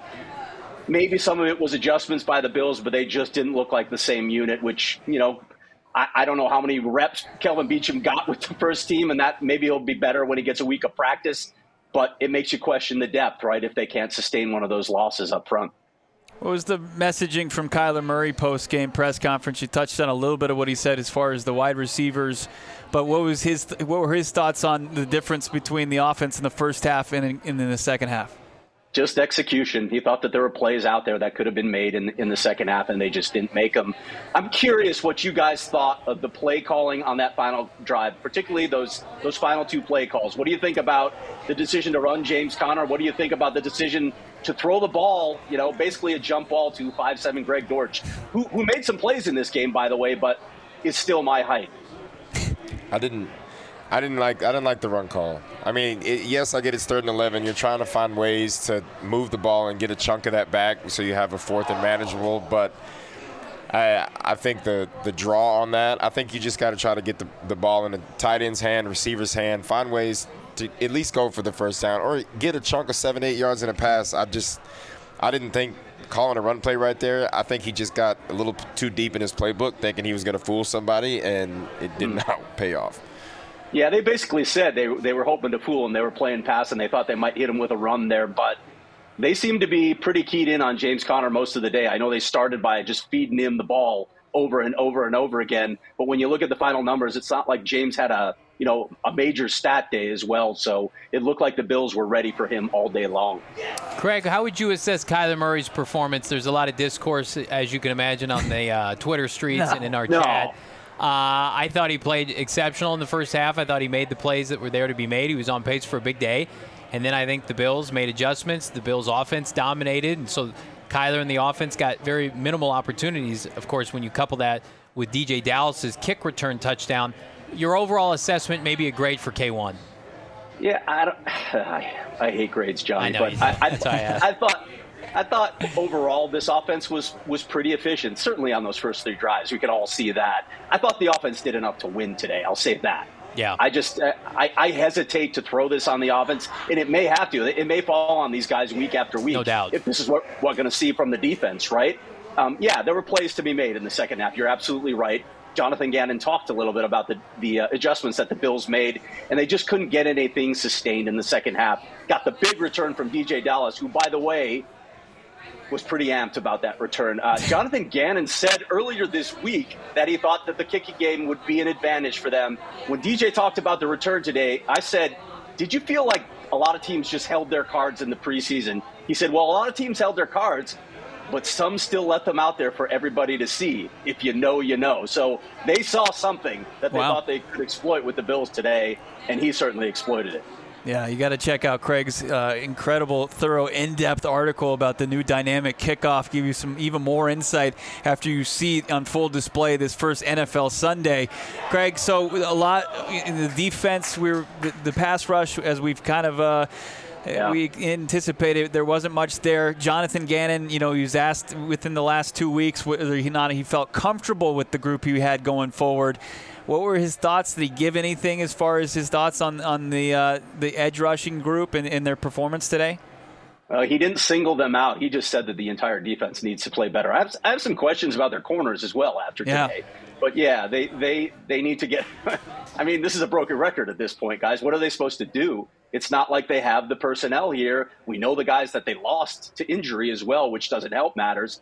maybe some of it was adjustments by the Bills, but they just didn't look like the same unit, which, you know, I, I don't know how many reps Kelvin Beachum got with the first team, and that maybe he'll be better when he gets a week of practice, but it makes you question the depth, right, if they can't sustain one of those losses up front. What was the messaging from Kyler Murray post-game press conference? You touched on a little bit of what he said as far as the wide receivers, but what was his? What were his thoughts on the difference between the offense in the first half and in, and in the second half? Just execution. He thought that there were plays out there that could have been made in, in the second half, and they just didn't make them. I'm curious what you guys thought of the play calling on that final drive, particularly those those final two play calls. What do you think about the decision to run James Conner? What do you think about the decision to throw the ball, you know, basically a jump ball to five seven Greg Dortch, who, who made some plays in this game, by the way, but is still my height? I didn't. I didn't like. I didn't like the run call. I mean, it, yes, I get it's third and eleven. You're trying to find ways to move the ball and get a chunk of that back, so you have a fourth and manageable. But I, I think the the draw on that. I think you just got to try to get the the ball in the tight end's hand, receiver's hand. Find ways to at least go for the first down or get a chunk of seven, eight yards in a pass. I just, I didn't think calling a run play right there. I think he just got a little too deep in his playbook, thinking he was going to fool somebody, and it did not pay off. Yeah, they basically said they they were hoping to fool him. They were playing pass, and they thought they might hit him with a run there. But they seem to be pretty keyed in on James Conner most of the day. I know they started by just feeding him the ball over and over and over again. But when you look at the final numbers, it's not like James had a you know a major stat day as well. So it looked like the Bills were ready for him all day long. Craig, how would you assess Kyler Murray's performance? There's a lot of discourse, as you can imagine, on the uh, Twitter streets no, and in our no. chat. Uh, I thought he played exceptional in the first half. I thought he made the plays that were there to be made. He was on pace for a big day. And then I think the Bills made adjustments. The Bills' offense dominated. And so Kyler and the offense got very minimal opportunities. Of course, when you couple that with D J Dallas's kick return touchdown, your overall assessment, maybe a grade for K one. Yeah, I don't. I, I hate grades, Johnny. I know but you do. I, I, That's why I asked. I thought. I thought overall this offense was was pretty efficient. Certainly on those first three drives, we could all see that. I thought the offense did enough to win today. I'll say that. Yeah. I just I, I hesitate to throw this on the offense, and it may have to. It may fall on these guys week after week. No doubt. If this is what we're going to see from the defense, right? Um, yeah, there were plays to be made in the second half. You're absolutely right. Jonathan Gannon talked a little bit about the, the uh, adjustments that the Bills made, and they just couldn't get anything sustained in the second half. Got the big return from D J Dallas, who, by the way, was pretty amped about that return. Uh, Jonathan Gannon said earlier this week that he thought that the kicking game would be an advantage for them. When D J talked about the return today, I said, did you feel like a lot of teams just held their cards in the preseason? He said, well, a lot of teams held their cards, but some still let them out there for everybody to see. If you know, you know. So they saw something that they Wow. thought they could exploit with the Bills today, and he certainly exploited it. Yeah, you got to check out Craig's uh, incredible, thorough, in-depth article about the new dynamic kickoff. Give you some even more insight after you see it on full display this first N F L Sunday. Craig, so a lot in the defense, we're the, the pass rush, as we've kind of uh, Yeah. we anticipated, there wasn't much there. Jonathan Gannon, you know, he was asked within the last two weeks whether he not he felt comfortable with the group he had going forward. What were his thoughts? Did he give anything as far as his thoughts on on the uh, the edge rushing group and, and their performance today? Uh, he didn't single them out. He just said that the entire defense needs to play better. I have, I have some questions about their corners as well after Yeah. today. But, yeah, they, they, they need to get – I mean, this is a broken record at this point, guys. What are they supposed to do? It's not like they have the personnel here. We know the guys that they lost to injury as well, which doesn't help matters.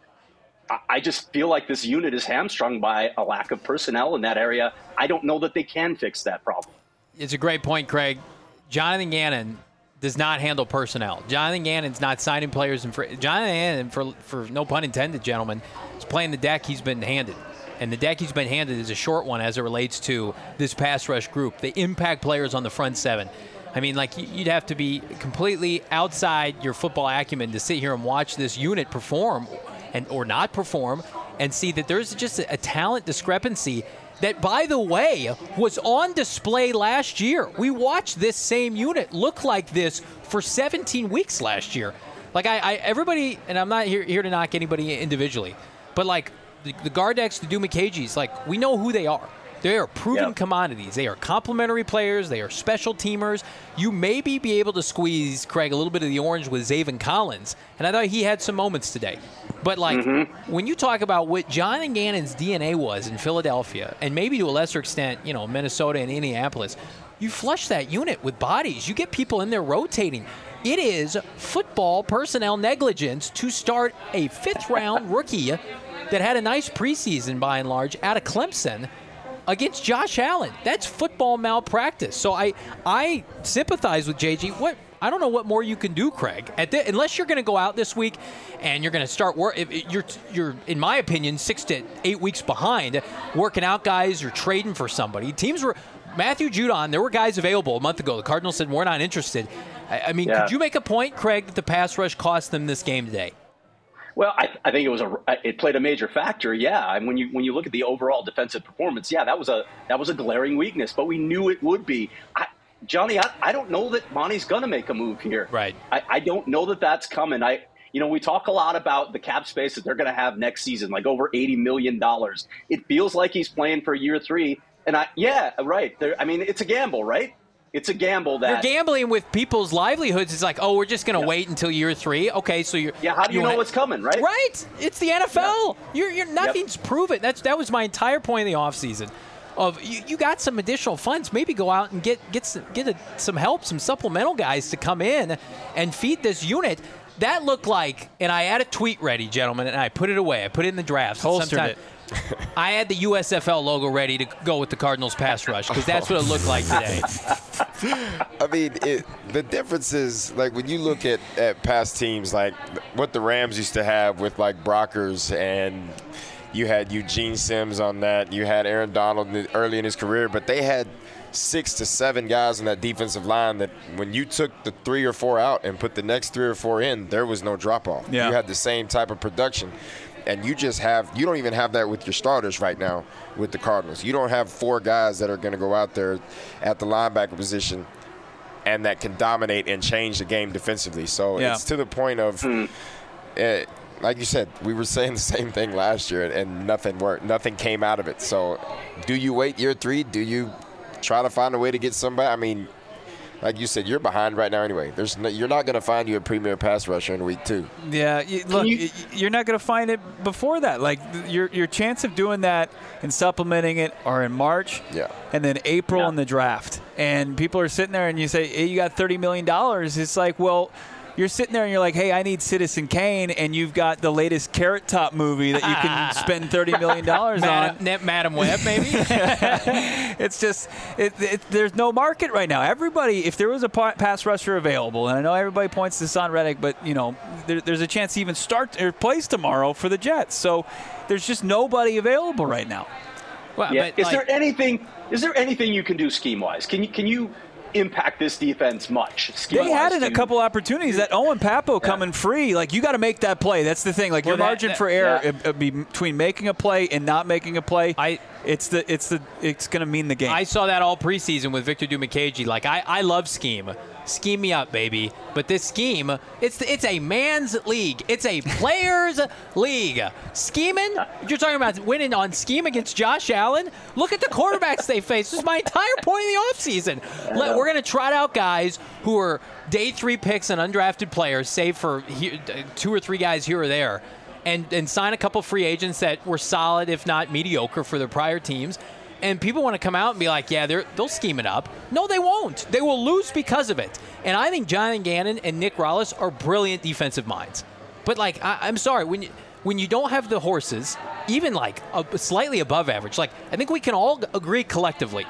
I just feel like this unit is hamstrung by a lack of personnel in that area. I don't know that they can fix that problem. It's a great point, Craig. Jonathan Gannon does not handle personnel. Jonathan Gannon's not signing players. And for, Jonathan Gannon, for, for no pun intended, gentlemen, is playing the deck he's been handed. And the deck he's been handed is a short one as it relates to this pass rush group, the impact players on the front seven. I mean, like, you'd have to be completely outside your football acumen to sit here and watch this unit perform and or not perform and see that there's just a, a talent discrepancy that, by the way, was on display last year. We watched this same unit look like this for seventeen weeks last year. Like, I, I everybody, and I'm not here, here to knock anybody individually, but, like, the, the Gardex, the Dumakages, like, we know who they are. They are proven Yep. commodities. They are complementary players. They are special teamers. You maybe be able to squeeze, Craig, a little bit of the orange with Zaven Collins, and I thought he had some moments today. But, like, mm-hmm. when you talk about what Jonathan Gannon's D N A was in Philadelphia, and maybe to a lesser extent, you know, Minnesota and Indianapolis, you flush that unit with bodies. You get people in there rotating. It is football personnel negligence to start a fifth-round rookie that had a nice preseason, by and large, out of Clemson, against Josh Allen. That's football malpractice. So I I sympathize with J G. What I don't know what more you can do, Craig. At the, unless you're going to go out this week and you're going to start work. You're you're in my opinion six to eight weeks behind working out guys or trading for somebody. Teams were Matthew Judon. There were guys available a month ago. The Cardinals said we're not interested. I, I mean, Yeah. could you make a point, Craig, that the pass rush cost them this game today? Well, I, I think it was a it played a major factor. Yeah, and when you when you look at the overall defensive performance, yeah, that was a that was a glaring weakness. But we knew it would be. I, Johnny, I, I don't know that Monty's going to make a move here. Right. I, I don't know that that's coming. I you know we talk a lot about the cap space that they're going to have next season, like over eighty million dollars. It feels like he's playing for year three, and I yeah right. There, I mean, it's a gamble, right? It's a gamble that You're gambling with people's livelihoods. It's like, oh, we're just going to Yeah. wait until year three. Okay, so you're yeah. How do you, know wanna- what's coming, right? Right. It's the N F L. You're, you're nothing's proven. That's that was my entire point in the offseason. Of you, you got some additional funds. Maybe go out and get get some, get a, some help, some supplemental guys to come in and feed this unit. That looked like, and I had a tweet ready, gentlemen, and I put it away. I put it in the drafts. Holstered Sometime- it. I had the U S F L logo ready to go with the Cardinals pass rush because that's what it looked like today. I mean, it, the difference is, like, when you look at, at past teams, like what the Rams used to have with, like, Brockers, and you had Eugene Sims on that. You had Aaron Donald early in his career, but they had six to seven guys on that defensive line that when you took the three or four out and put the next three or four in, there was no drop-off. Yeah. You had the same type of production. And you just have – you don't even have that with your starters right now with the Cardinals. You don't have four guys that are going to go out there at the linebacker position and that can dominate and change the game defensively. So yeah. it's to the point of mm. uh, – like you said, we were saying the same thing last year, and nothing worked. Nothing came out of it. So do you wait year three? Do you try to find a way to get somebody? I mean, like you said, you're behind right now anyway. There's no, you're not going to find you a premier pass rusher in week two. Yeah, you, look, you, you're not going to find it before that. Like your your chance of doing that and supplementing it are in March, yeah, and then April yeah. in the draft. And people are sitting there, and you say, hey, you got thirty million dollars. It's like, well, you're sitting there and you're like, hey, I need Citizen Kane, and you've got the latest Carrot Top movie that you can spend thirty million dollars on. Madam, Madam Web, maybe? It's just, it, it, there's no market right now. Everybody, if there was a pass rusher available, and I know everybody points to Son Reddick, but, you know, there, there's a chance to even start or plays tomorrow for the Jets. So there's just nobody available right now. Well, yeah. but Is like, there anything, is there anything you can do scheme-wise? Can you, can you – impact this defense much? They had in a couple opportunities that Owen Papo yeah. coming free. Like, you got to make that play. That's the thing. Like, well, your that, margin that, for error yeah. it, it between making a play and not making a play. I it's the it's the it's going to mean the game. I saw that all preseason with Victor Dimukeje. Like, I, I love scheme. Scheme me up, baby. But this scheme, it's it's a man's league. It's a players' league. Scheming? You're talking about winning on scheme against Josh Allen? Look at the quarterbacks they face. This is my entire point in the offseason. Let, we're going to trot out guys who are day three picks and undrafted players, save for he, two or three guys here or there, and, and sign a couple free agents that were solid, if not mediocre, for their prior teams. And people want to come out and be like, yeah, they're, they'll scheme it up. No, they won't. They will lose because of it. And I think Jonathan Gannon and Nick Rallis are brilliant defensive minds. But, like, I, I'm sorry, when you, when you don't have the horses, even, like, a, slightly above average, like, I think we can all agree collectively,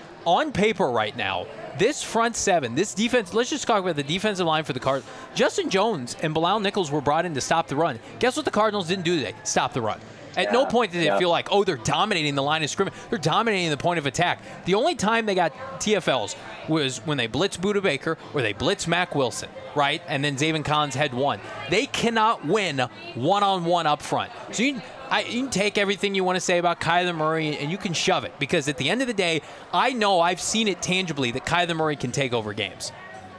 on paper right now, this front seven, this defense, let's just talk about the defensive line for the Cardinals. Justin Jones and Bilal Nichols were brought in to stop the run. Guess what the Cardinals didn't do today? Stop the run. At yeah, no point did they yeah. feel like, oh, they're dominating the line of scrimmage. They're dominating the point of attack. The only time they got T F Ls was when they blitzed Budda Baker or they blitzed Mack Wilson, right? And then Zaven Collins had one. They cannot win one-on-one up front. So you, I, you can take everything you want to say about Kyler Murray and you can shove it, because at the end of the day, I know I've seen it tangibly that Kyler Murray can take over games.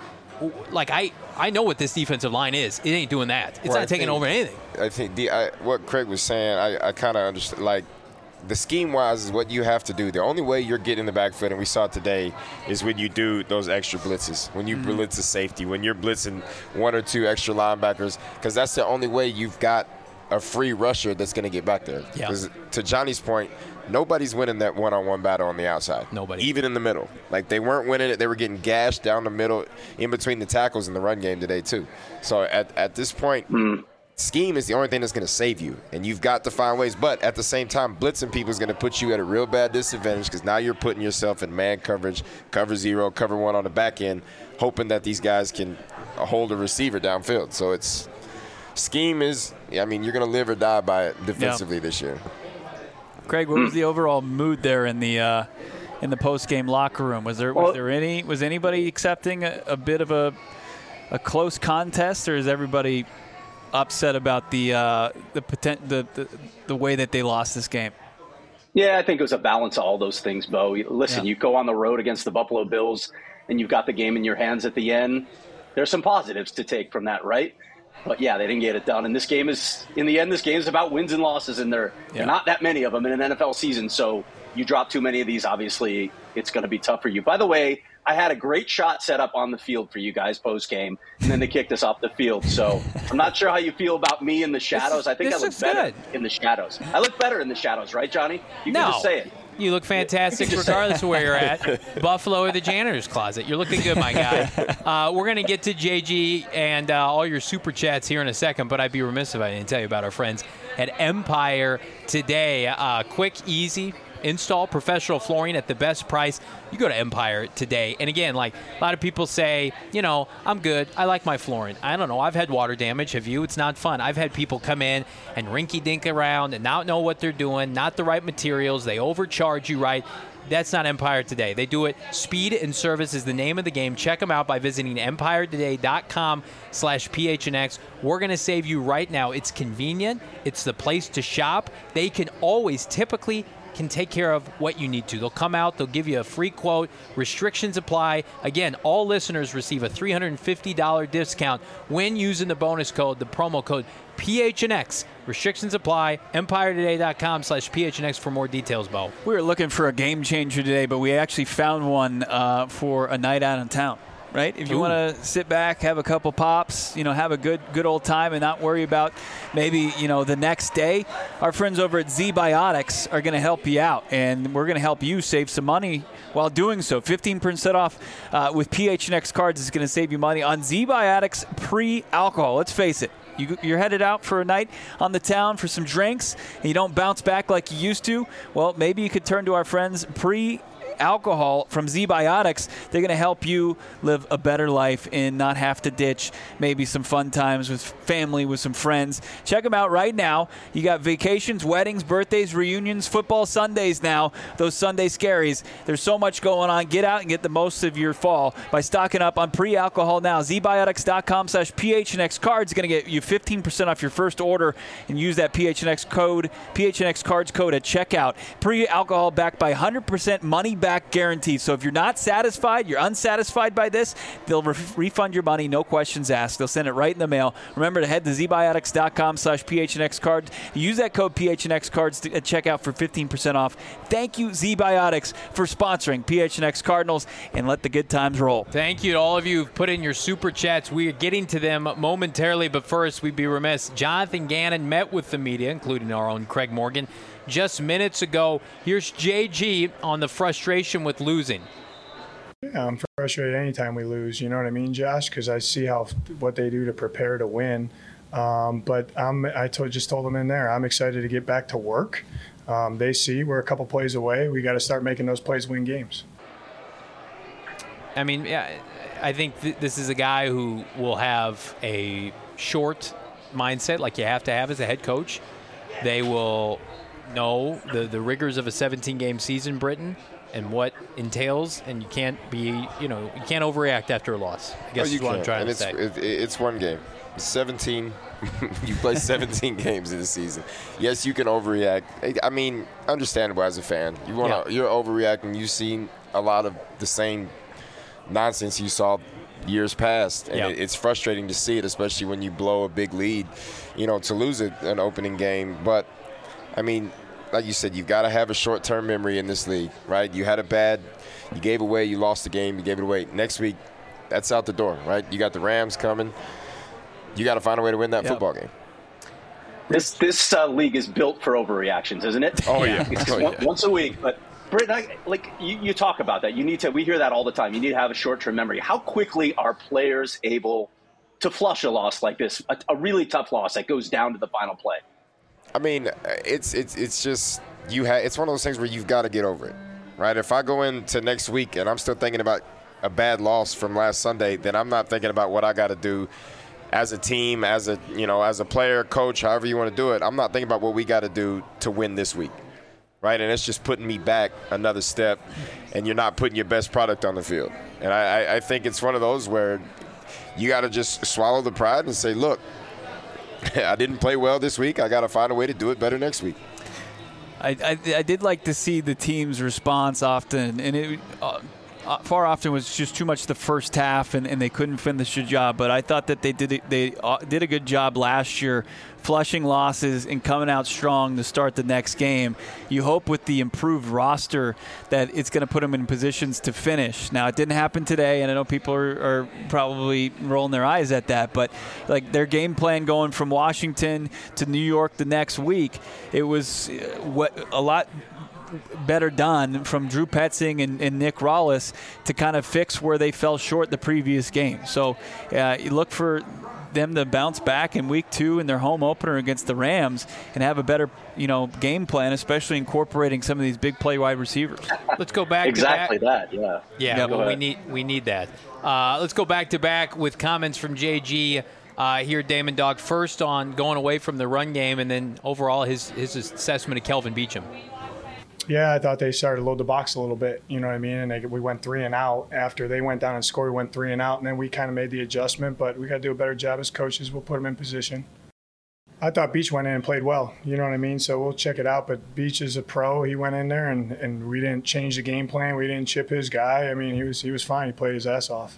Like, I, I know what this defensive line is. It ain't doing that. It's well, not I taking think, over anything. I think the, I, what Craig was saying, I, I kind of understand. Like, the scheme-wise is what you have to do. The only way you're getting in the backfield, and we saw it today, is when you do those extra blitzes, when you mm-hmm. blitz a safety, when you're blitzing one or two extra linebackers, because that's the only way you've got a free rusher that's going to get back there. Because yeah. to Johnny's point, nobody's winning that one-on-one battle on the outside. Nobody. Even in the middle. Like, they weren't winning it. They were getting gashed down the middle in between the tackles in the run game today, too. So at, at this point, mm. scheme is the only thing that's going to save you. And you've got to find ways. But at the same time, blitzing people is going to put you at a real bad disadvantage, because now you're putting yourself in man coverage, cover zero, cover one on the back end, hoping that these guys can hold a receiver downfield. So it's scheme is, I mean, you're going to live or die by it defensively yeah. this year. Craig, what was the overall mood there in the uh, in the post game locker room? Was there was well, there any was anybody accepting a, a bit of a a close contest, or is everybody upset about the uh, the, potent, the the the way that they lost this game? Yeah, I think it was a balance of all those things, Bo. Listen, yeah. you go on the road against the Buffalo Bills, and you've got the game in your hands at the end. There's some positives to take from that, right? But, yeah, they didn't get it done. And this game is, in the end, this game is about wins and losses, and there yeah. are not that many of them in an N F L season. So you drop too many of these, obviously, it's going to be tough for you. By the way, I had a great shot set up on the field for you guys post-game, and then they kicked us off the field. So I'm not sure how you feel about me in the shadows. I think I look better good. in the shadows. I look better in the shadows, right, Johnny? You no. can just say it. You look fantastic regardless of where you're at. Buffalo or the janitor's closet. You're looking good, my guy. Uh, we're going to get to J G and uh, all your super chats here in a second, but I'd be remiss if I didn't tell you about our friends at Empire today. Uh, quick, easy install professional flooring at the best price. You go to Empire today. And again, like a lot of people say, you know, I'm good. I like my flooring. I don't know. I've had water damage. Have you? It's not fun. I've had people come in and rinky-dink around and not know what they're doing, not the right materials. They overcharge you, right? That's not Empire Today. They do it. Speed and service is the name of the game. Check them out by visiting empire today dot com slash P H N X. We're going to save you right now. It's convenient. It's the place to shop. They can always, typically, can take care of what you need to. They'll come out. They'll give you a free quote. Restrictions apply. Again, all listeners receive a three hundred fifty dollars discount when using the bonus code, the promo code P H N X. Restrictions apply. empire today dot com slash P H N X for more details, Bo. We were looking for a game changer today, but we actually found one uh, for a night out in town. Right? If you want to sit back, have a couple pops, you know, have a good good old time and not worry about maybe, you know, the next day, our friends over at Z-Biotics are going to help you out, and we're going to help you save some money while doing so. fifteen percent off uh, with P H N X cards is going to save you money on Z-Biotics pre-alcohol. Let's face it. You, you're headed out for a night on the town for some drinks, and you don't bounce back like you used to. Well, maybe you could turn to our friends pre alcohol from Z-Biotics. They're going to help you live a better life and not have to ditch maybe some fun times with family, with some friends. Check them out right now. You got vacations, weddings, birthdays, reunions, football Sundays now, those Sunday scaries. There's so much going on. Get out and get the most of your fall by stocking up on pre-alcohol now. Z Biotics dot com slash P H N X cards is going to get you fifteen percent off your first order, and use that P H N X code, P H N X cards code at checkout. Pre-alcohol backed by one hundred percent money back guarantee. So if you're not satisfied, you're unsatisfied by this, they'll re- refund your money, no questions asked. They'll send it right in the mail. Remember to head to Z Biotics dot com slash P H N X cards. Use that code P H N X cards at checkout for fifteen percent off. Thank you, Z-Biotics, for sponsoring P H N X Cardinals, and let the good times roll. Thank you to all of you who've put in your super chats. We are getting to them momentarily, but first, we'd be remiss. Jonathan Gannon met with the media, including our own Craig Morgan, just minutes ago. Here's J G on the frustration with losing. Yeah, I'm frustrated anytime we lose. You know what I mean, Josh? Because I see how what they do to prepare to win. Um, but I'm, I told, just told them in there, I'm excited to get back to work. Um, they see we're a couple plays away. We got to start making those plays win games. I mean, yeah, I think th- this is a guy who will have a short mindset like you have to have as a head coach. They will know the, the rigors of a seventeen-game season, Britton, and what entails, and you can't be, you know, you can't overreact after a loss. I guess no, you is what can't. I'm trying and to it's, say. It, it's one game. seventeen You play seventeen games in a season. Yes, you can overreact. I mean, understandable as a fan. You want to, yeah. You're overreacting. You've seen a lot of the same nonsense you saw years past, and yep. it, it's frustrating to see it, especially when you blow a big lead, you know, to lose it, an opening game. But, I mean, like you said, you've got to have a short-term memory in this league, right? You had a bad, you gave away, you lost the game, you gave it away. Next week, that's out the door, right? You got the Rams coming. You got to find a way to win that yep. football game. This this uh, league is built for overreactions, isn't it? Oh, yeah. It's oh, one, yeah. Once a week, but Britt, I, like you, you talk about that. You need to. We hear that all the time. You need to have a short-term memory. How quickly are players able to flush a loss like this, a, a really tough loss that goes down to the final play? I mean, it's it's it's just you have. It's one of those things where you've got to get over it, right? If I go into next week and I'm still thinking about a bad loss from last Sunday, then I'm not thinking about what I got to do as a team, as a you know, as a player, coach, however you want to do it. I'm not thinking about what we got to do to win this week. Right, and it's just putting me back another step, and you're not putting your best product on the field. And I, I think it's one of those where you got to just swallow the pride and say, look, I didn't play well this week. I got to find a way to do it better next week. I, I, I did like to see the team's response often, and it uh, far often was just too much the first half, and, and they couldn't finish the job. But I thought that they did they uh, did a good job last year, flushing losses and coming out strong to start the next game. You hope with the improved roster that it's going to put them in positions to finish. Now, it didn't happen today, and I know people are, are probably rolling their eyes at that, but like their game plan going from Washington to New York the next week, it was what a lot better done from Drew Petzing and, and Nick Rollis to kind of fix where they fell short the previous game. So uh, you look for them to bounce back in week two in their home opener against the Rams and have a better, you know, game plan, especially incorporating some of these big play wide receivers. Let's go back exactly to back. that. Yeah. Yeah. Yep. Well, we need we need that. Uh, let's go back to back with comments from J G. Uh, here, Damon Dog, first on going away from the run game, and then overall his his assessment of Kelvin Beachum. Yeah, I thought they started to load the box a little bit. You know what I mean? And they, we went three and out after they went down and scored. We went three and out, and then we kind of made the adjustment. But we got to do a better job as coaches. We'll put them in position. I thought Beach went in and played well. You know what I mean? So we'll check it out. But Beach is a pro. He went in there, and, and we didn't change the game plan. We didn't chip his guy. I mean, he was he was fine. He played his ass off.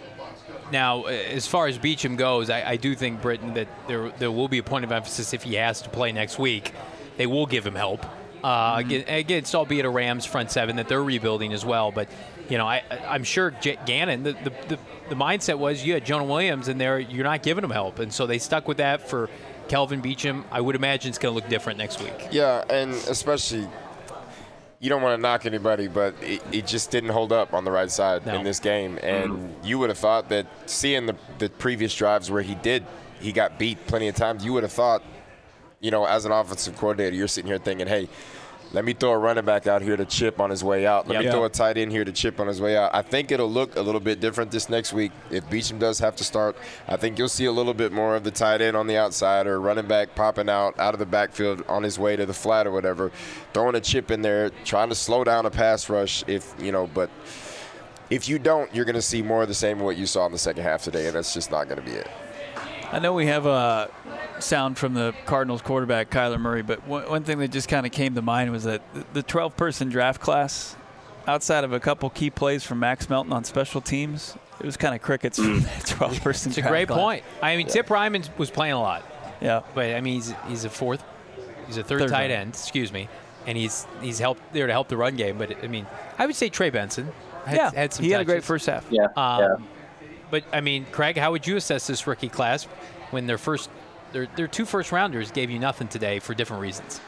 Now, as far as Beacham goes, I, I do think, Britton, that there there will be a point of emphasis if he has to play next week. They will give him help. Uh, mm-hmm. Against, albeit a Rams front seven that they're rebuilding as well. But, you know, I, I'm sure J- Gannon, the, the, the, the mindset was you had Jonah Williams in there, you're not giving him help. And so they stuck with that for Kelvin Beacham. I would imagine it's going to look different next week. Yeah, and especially – you don't want to knock anybody, but it, it just didn't hold up on the right side no. in this game. And mm-hmm. you would have thought that seeing the, the previous drives where he did, he got beat plenty of times, you would have thought, you know, as an offensive coordinator, you're sitting here thinking, hey, let me throw a running back out here to chip on his way out. Let yep. me throw a tight end here to chip on his way out. I think it'll look a little bit different this next week. If Beacham does have to start, I think you'll see a little bit more of the tight end on the outside or running back popping out out of the backfield on his way to the flat or whatever, throwing a chip in there, trying to slow down a pass rush. If you know, but if you don't, you're going to see more of the same of what you saw in the second half today, and that's just not going to be it. I know we have a sound from the Cardinals quarterback, Kyler Murray, but one, one thing that just kind of came to mind was that the twelve-person draft class, outside of a couple key plays from Max Melton on special teams, it was kind of crickets from that twelve-person It's draft a great class. point. I mean, yeah. Tip Ryman was playing a lot. Yeah. But, I mean, he's, he's a fourth, he's a third, third tight end, excuse me, and he's he's helped there to help the run game. But, I mean, I would say Trey Benson had, yeah, had some he touches. had a great first half. Yeah, um, yeah. But, I mean, Craig, how would you assess this rookie class when their first their, their two first-rounders gave you nothing today for different reasons?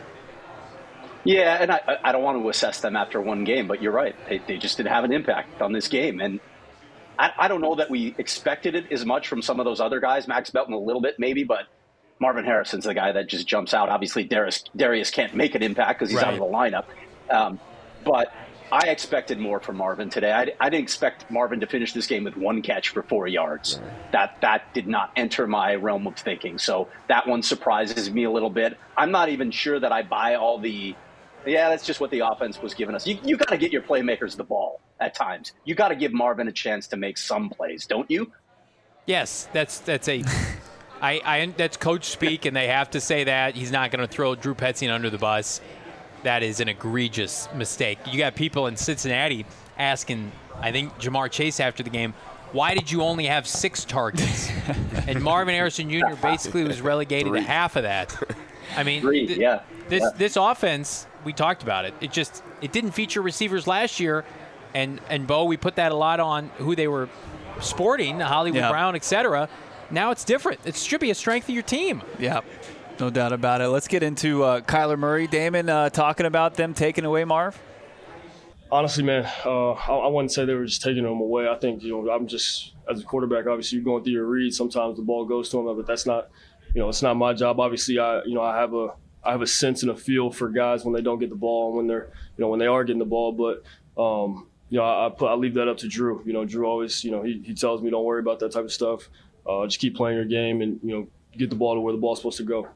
Yeah, and I, I don't want to assess them after one game, but you're right. They, they just didn't have an impact on this game. And I, I don't know that we expected it as much from some of those other guys. Max Melton a little bit maybe, but Marvin Harrison's the guy that just jumps out. Obviously, Darius, Darius can't make an impact because he's right. out of the lineup. Um, but I expected more from Marvin today. I, I didn't expect Marvin to finish this game with one catch for four yards. Right. That that did not enter my realm of thinking. So that one surprises me a little bit. I'm not even sure that I buy all the, yeah, that's just what the offense was giving us. You you got to get your playmakers the ball at times. You got to give Marvin a chance to make some plays, don't you? Yes, that's that's a, I, I that's coach speak, and they have to say that. He's not going to throw Drew Petzing under the bus. That is an egregious mistake. You got people in Cincinnati asking, I think, Jamar Chase after the game, why did you only have six targets? And Marvin Harrison Junior basically was relegated Three. to half of that. I mean, Three, th- yeah. this yeah. this offense, we talked about it. It just it didn't feature receivers last year, and and Bo, we put that a lot on who they were sporting, Hollywood yeah. Brown, et cetera. Now it's different. It should be a strength of your team. Yeah. No doubt about it. Let's get into uh, Kyler Murray. Damon, uh, talking about them taking away Marv? Honestly, man, uh, I, I wouldn't say they were just taking him away. I think, you know, I'm just, as a quarterback, obviously you're going through your reads. Sometimes the ball goes to him, but that's not, you know, it's not my job. Obviously, I, you know, I have a, I have a sense and a feel for guys when they don't get the ball and when they're, you know, when they are getting the ball. But, um, you know, I, I put, I leave that up to Drew. You know, Drew always, you know, he, he tells me don't worry about that type of stuff. Uh, just keep playing your game and, you know, get the ball to where the ball's supposed to go.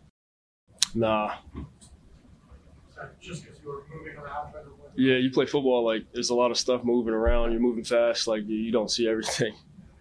Nah. Just because you were moving around? Yeah, you play football, like, there's a lot of stuff moving around. You're moving fast. Like, you don't see everything.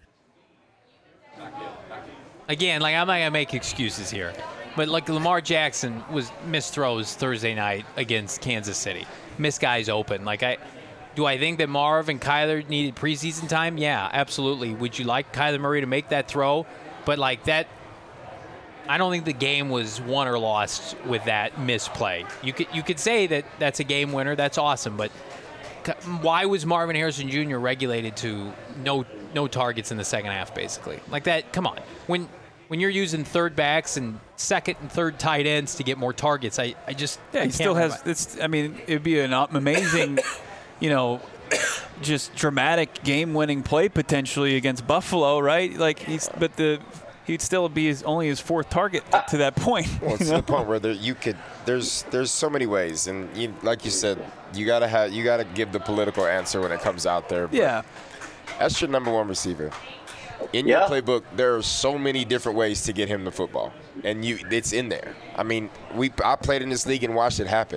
Again, like, I'm not going to make excuses here. But, like, Lamar Jackson was missed throws Thursday night against Kansas City. Missed guys open. Like, I do I think that Marv and Kyler needed preseason time? Yeah, absolutely. Would you like Kyler Murray to make that throw? But, like, that – I don't think the game was won or lost with that misplay. You could you could say that that's a game winner. That's awesome. But why was Marvin Harrison Junior regulated to no no targets in the second half, basically? Like that, come on. When when you're using third backs and second and third tight ends to get more targets, I, I just Yeah, I he still has – it's. I mean, it would be an amazing, you know, just dramatic game-winning play potentially against Buffalo, right? Like he's – but the – he'd still be his, only his fourth target to that point. Well, it's to the point where there, you could. There's there's so many ways, and you, like you said, you gotta have you gotta give the political answer when it comes out there. But yeah, that's your number one receiver. In yeah. your playbook, there are so many different ways to get him the football, and you it's in there. I mean, we I played in this league and watched it happen.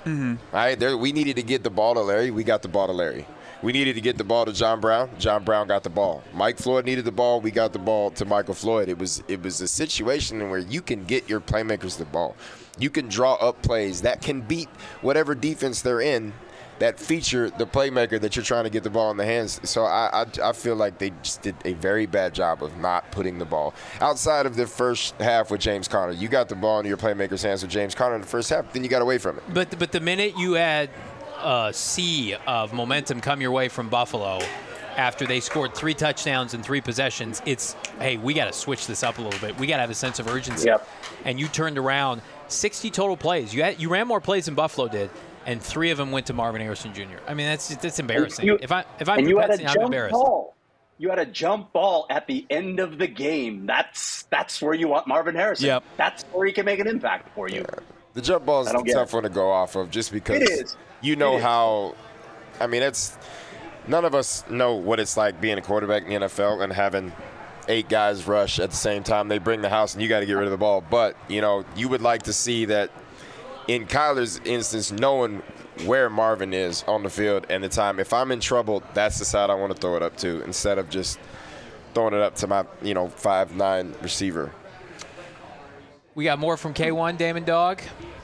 Mm-hmm. All right, there, we needed to get the ball to Larry. We got the ball to Larry. We needed to get the ball to John Brown. John Brown got the ball. Mike Floyd needed the ball. We got the ball to Michael Floyd. It was it was a situation where you can get your playmakers the ball. You can draw up plays that can beat whatever defense they're in that feature the playmaker that you're trying to get the ball in the hands. So I, I, I feel like they just did a very bad job of not putting the ball. Outside of the first half with James Conner, you got the ball in your playmaker's hands with James Conner in the first half, then you got away from it. But but the minute you had a sea of momentum come your way from Buffalo after they scored three touchdowns in three possessions, it's, hey, we got to switch this up a little bit. We got to have a sense of urgency. Yep. And you turned around sixty total plays. You had, you ran more plays than Buffalo did, and three of them went to Marvin Harrison Junior I mean, that's that's embarrassing. You, if I if I'm and you had a Betsy, I'm jump embarrassed. ball. You had a jump ball at the end of the game. That's that's where you want Marvin Harrison. Yep. That's where he can make an impact for you. Yeah. The jump ball is I a don't get tough it. one to go off of just because It is. you know It is. how – I mean, it's – none of us know what it's like being a quarterback in the N F L and having eight guys rush at the same time. They bring the house and you got to get rid of the ball. But, you know, you would like to see that in Kyler's instance, knowing where Marvin is on the field and the time. If I'm in trouble, that's the side I want to throw it up to instead of just throwing it up to my, you know, five nine receiver. We got more from K one, Damon Dog.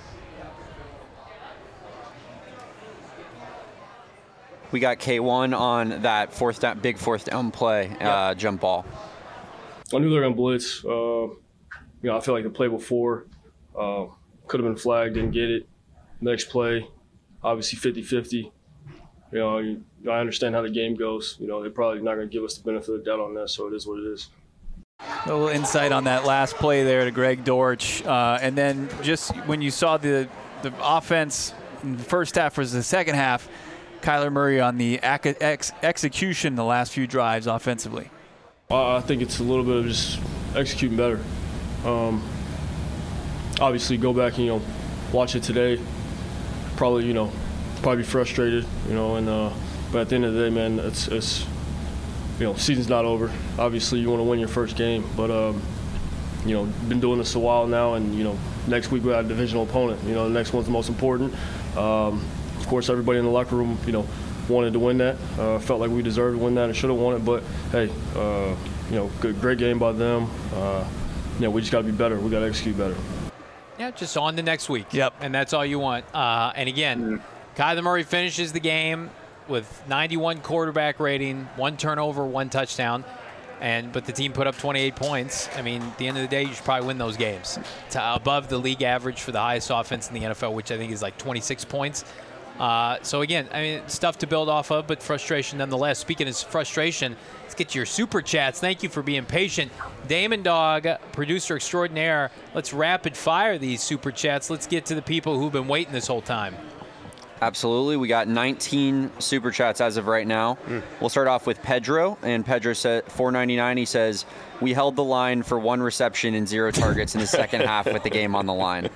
We got K one on that fourth down, big fourth down play, uh, jump ball. I knew they were going to blitz. Uh, you know, I feel like the play before uh, could have been flagged, didn't get it. Next play, obviously fifty-fifty. You know, you, I understand how the game goes. You know, they're probably not going to give us the benefit of the doubt on that, so it is what it is. A little insight on that last play there to Greg Dortch. Uh, and then just when you saw the, the offense in the first half versus the second half, Kyler Murray on the ac- ex- execution the last few drives offensively. I think it's a little bit of just executing better. Um, obviously, go back and, you know, watch it today. Probably, you know, probably be frustrated, you know, and uh, but at the end of the day, man, it's, it's you know, season's not over. Obviously, you want to win your first game, but um, you know, been doing this a while now, and you know, next week we got a divisional opponent. You know, the next one's the most important. Um, of course, everybody in the locker room, you know, wanted to win that. Uh, felt like we deserved to win that and should have won it. But hey, uh, you know, good, great game by them. Uh, you know, we just got to be better. We got to execute better. Yeah, just on to next week. Yep. And that's all you want. Uh, and again, Kyler Murray finishes the game with ninety-one quarterback rating, one turnover, one touchdown. And but the team put up twenty-eight points. I mean, at the end of the day, you should probably win those games. It's above the league average for the highest offense in the N F L, which I think is like twenty-six points. Uh, so, again, I mean, stuff to build off of, but frustration nonetheless. Speaking of frustration, let's get to your super chats. Thank you for being patient. Damon Dog, producer extraordinaire, let's rapid fire these super chats. Let's get to the people who've been waiting this whole time. Absolutely. We got nineteen super chats as of right now. Mm. We'll start off with Pedro, and Pedro said four ninety-nine. He says, "We held the line for one reception and zero targets in the second half with the game on the line."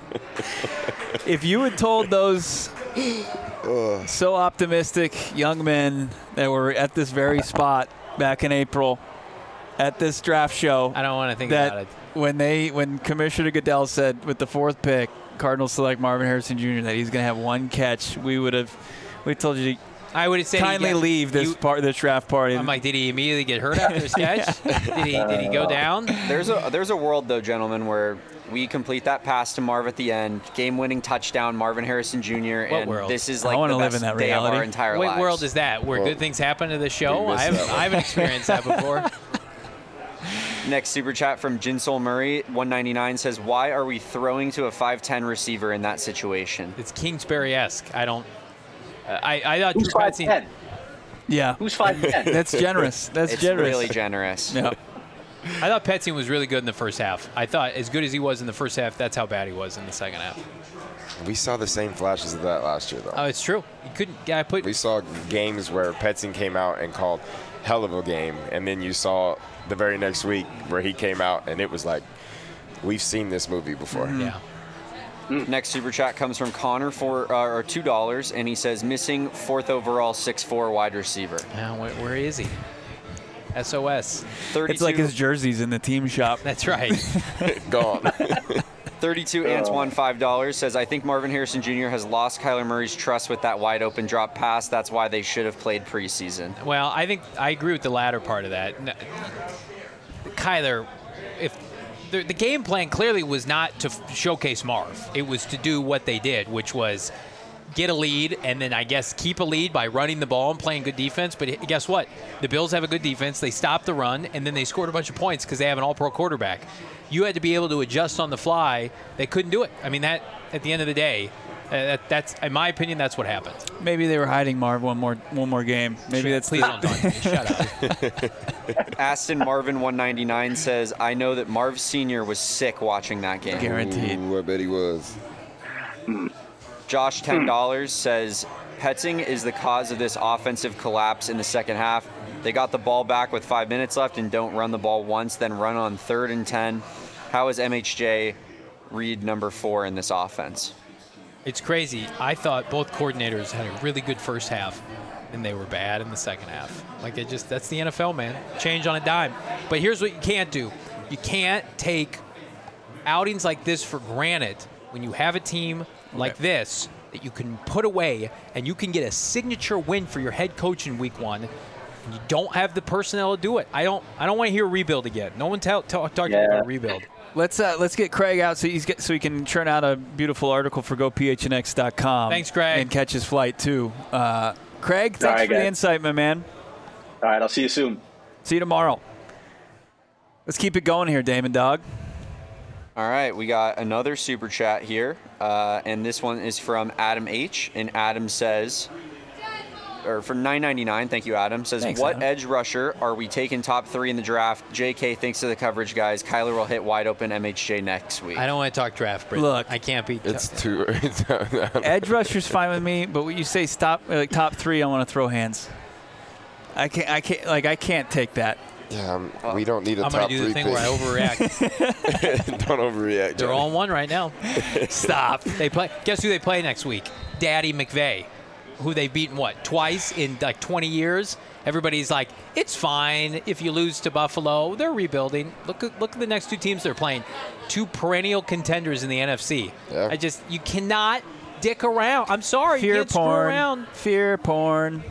If you had told those so optimistic young men that were at this very spot back in April at this draft show, I don't want to think that about it. when they when Commissioner Goodell said with the fourth pick, Cardinals select Marvin Harrison Junior, that he's going to have one catch, we would have we told you to I would have said kindly he got, leave this you, part this draft party. I'm like, did he immediately get hurt after his catch? Did he did he go down? There's a there's a world though, gentlemen, where we complete that pass to Marv at the end, game-winning touchdown, Marvin Harrison Junior, What and world? this is I like wanna the live best in that day of reality. our entire What lives. world is that? Where Well, good things happen to the show? we missed I haven't, that one. I haven't experienced that before. Next super chat from Jinsol Murray, one ninety-nine, says, "Why are we throwing to a five ten receiver in that situation?" It's Kingsbury-esque. I don't. Uh, I I thought Who's Drew five Petzing. ten? yeah, Who's five ten? that's generous. That's It's generous. really generous. Yeah. I thought Petzing was really good in the first half. I thought as good as he was in the first half, that's how bad he was in the second half. We saw the same flashes of that last year, though. Oh, it's true. You couldn't. Yeah, I put. We saw games where Petzing came out and called hell of a game, and then you saw the very next week where he came out and it was like, we've seen this movie before. Yeah. Next super chat comes from Connor for uh, or two dollars, and he says, "Missing fourth overall, six four wide receiver." Now, where, where is he? S O S. thirty-two It's like his jerseys in the team shop. That's right. Gone. thirty-two Antoine, five dollars, says, I think Marvin Harrison Junior has lost Kyler Murray's trust with that wide open drop pass. That's why they should have played preseason. Well, I think I agree with the latter part of that. No, Kyler, if the, the game plan clearly was not to f- showcase Marv. It was to do what they did, which was get a lead and then I guess keep a lead by running the ball and playing good defense. But guess what? The Bills have a good defense. They stopped the run, and then they scored a bunch of points because they have an all-pro quarterback. You had to be able to adjust on the fly. They couldn't do it. I mean, that at the end of the day, uh, that, that's in my opinion, that's what happened. Maybe they were hiding Marv one more one more game. Maybe that's Please the, don't talk to me. Shut up. Aston Marvin one ninety-nine says, I know that Marv Senior was sick watching that game. Guaranteed. Ooh, I bet he was. Josh, ten dollars, says, Petzing is the cause of this offensive collapse in the second half. They got the ball back with five minutes left and don't run the ball once, then run on third and ten. How is M H J read number four in this offense? It's crazy. I thought both coordinators had a really good first half, and they were bad in the second half. Like, it just, that's the N F L, man. Change on a dime. But here's what you can't do. You can't take outings like this for granted when you have a team like Okay. this that you can put away and you can get a signature win for your head coach in week one. And you don't have the personnel to do it. I don't I don't want to hear rebuild again. No one tell, tell, talking Yeah. about rebuild. Let's uh, let's get Craig out so he's get, so he can churn out a beautiful article for go p h n x dot com. Thanks, Craig. And catch his flight too. Uh, Craig, thanks All right, for the guys. insight, my man. All right, I'll see you soon. See you tomorrow. Let's keep it going here, Damon Dog. All right, we got another super chat here, uh, and this one is from Adam H. And Adam says, or for nine ninety-nine, thank you, Adam, says, Thanks, what Adam. edge rusher are we taking top three in the draft? J K thinks of the coverage guys. Kyler will hit wide open M H J next week. I don't want to talk draft, Britt. Look, I can't be. It's too. Edge rusher's fine with me, but when you say stop like top three, I want to throw hands. I can't. I can't. Like I can't take that. Yeah, um, we don't need a I'm top going to do three the thing pick. where I overreact. Don't overreact. They're Johnny. all on one right now. Stop. They play. Guess who they play next week? Daddy McVay, who they've beaten what twice in like twenty years. Everybody's like, it's fine if you lose to Buffalo. They're rebuilding. Look at look at the next two teams they're playing. Two perennial contenders in the N F C. Yeah. I just you cannot dick around. I'm sorry, you Fear can't screw porn. around. Fear porn.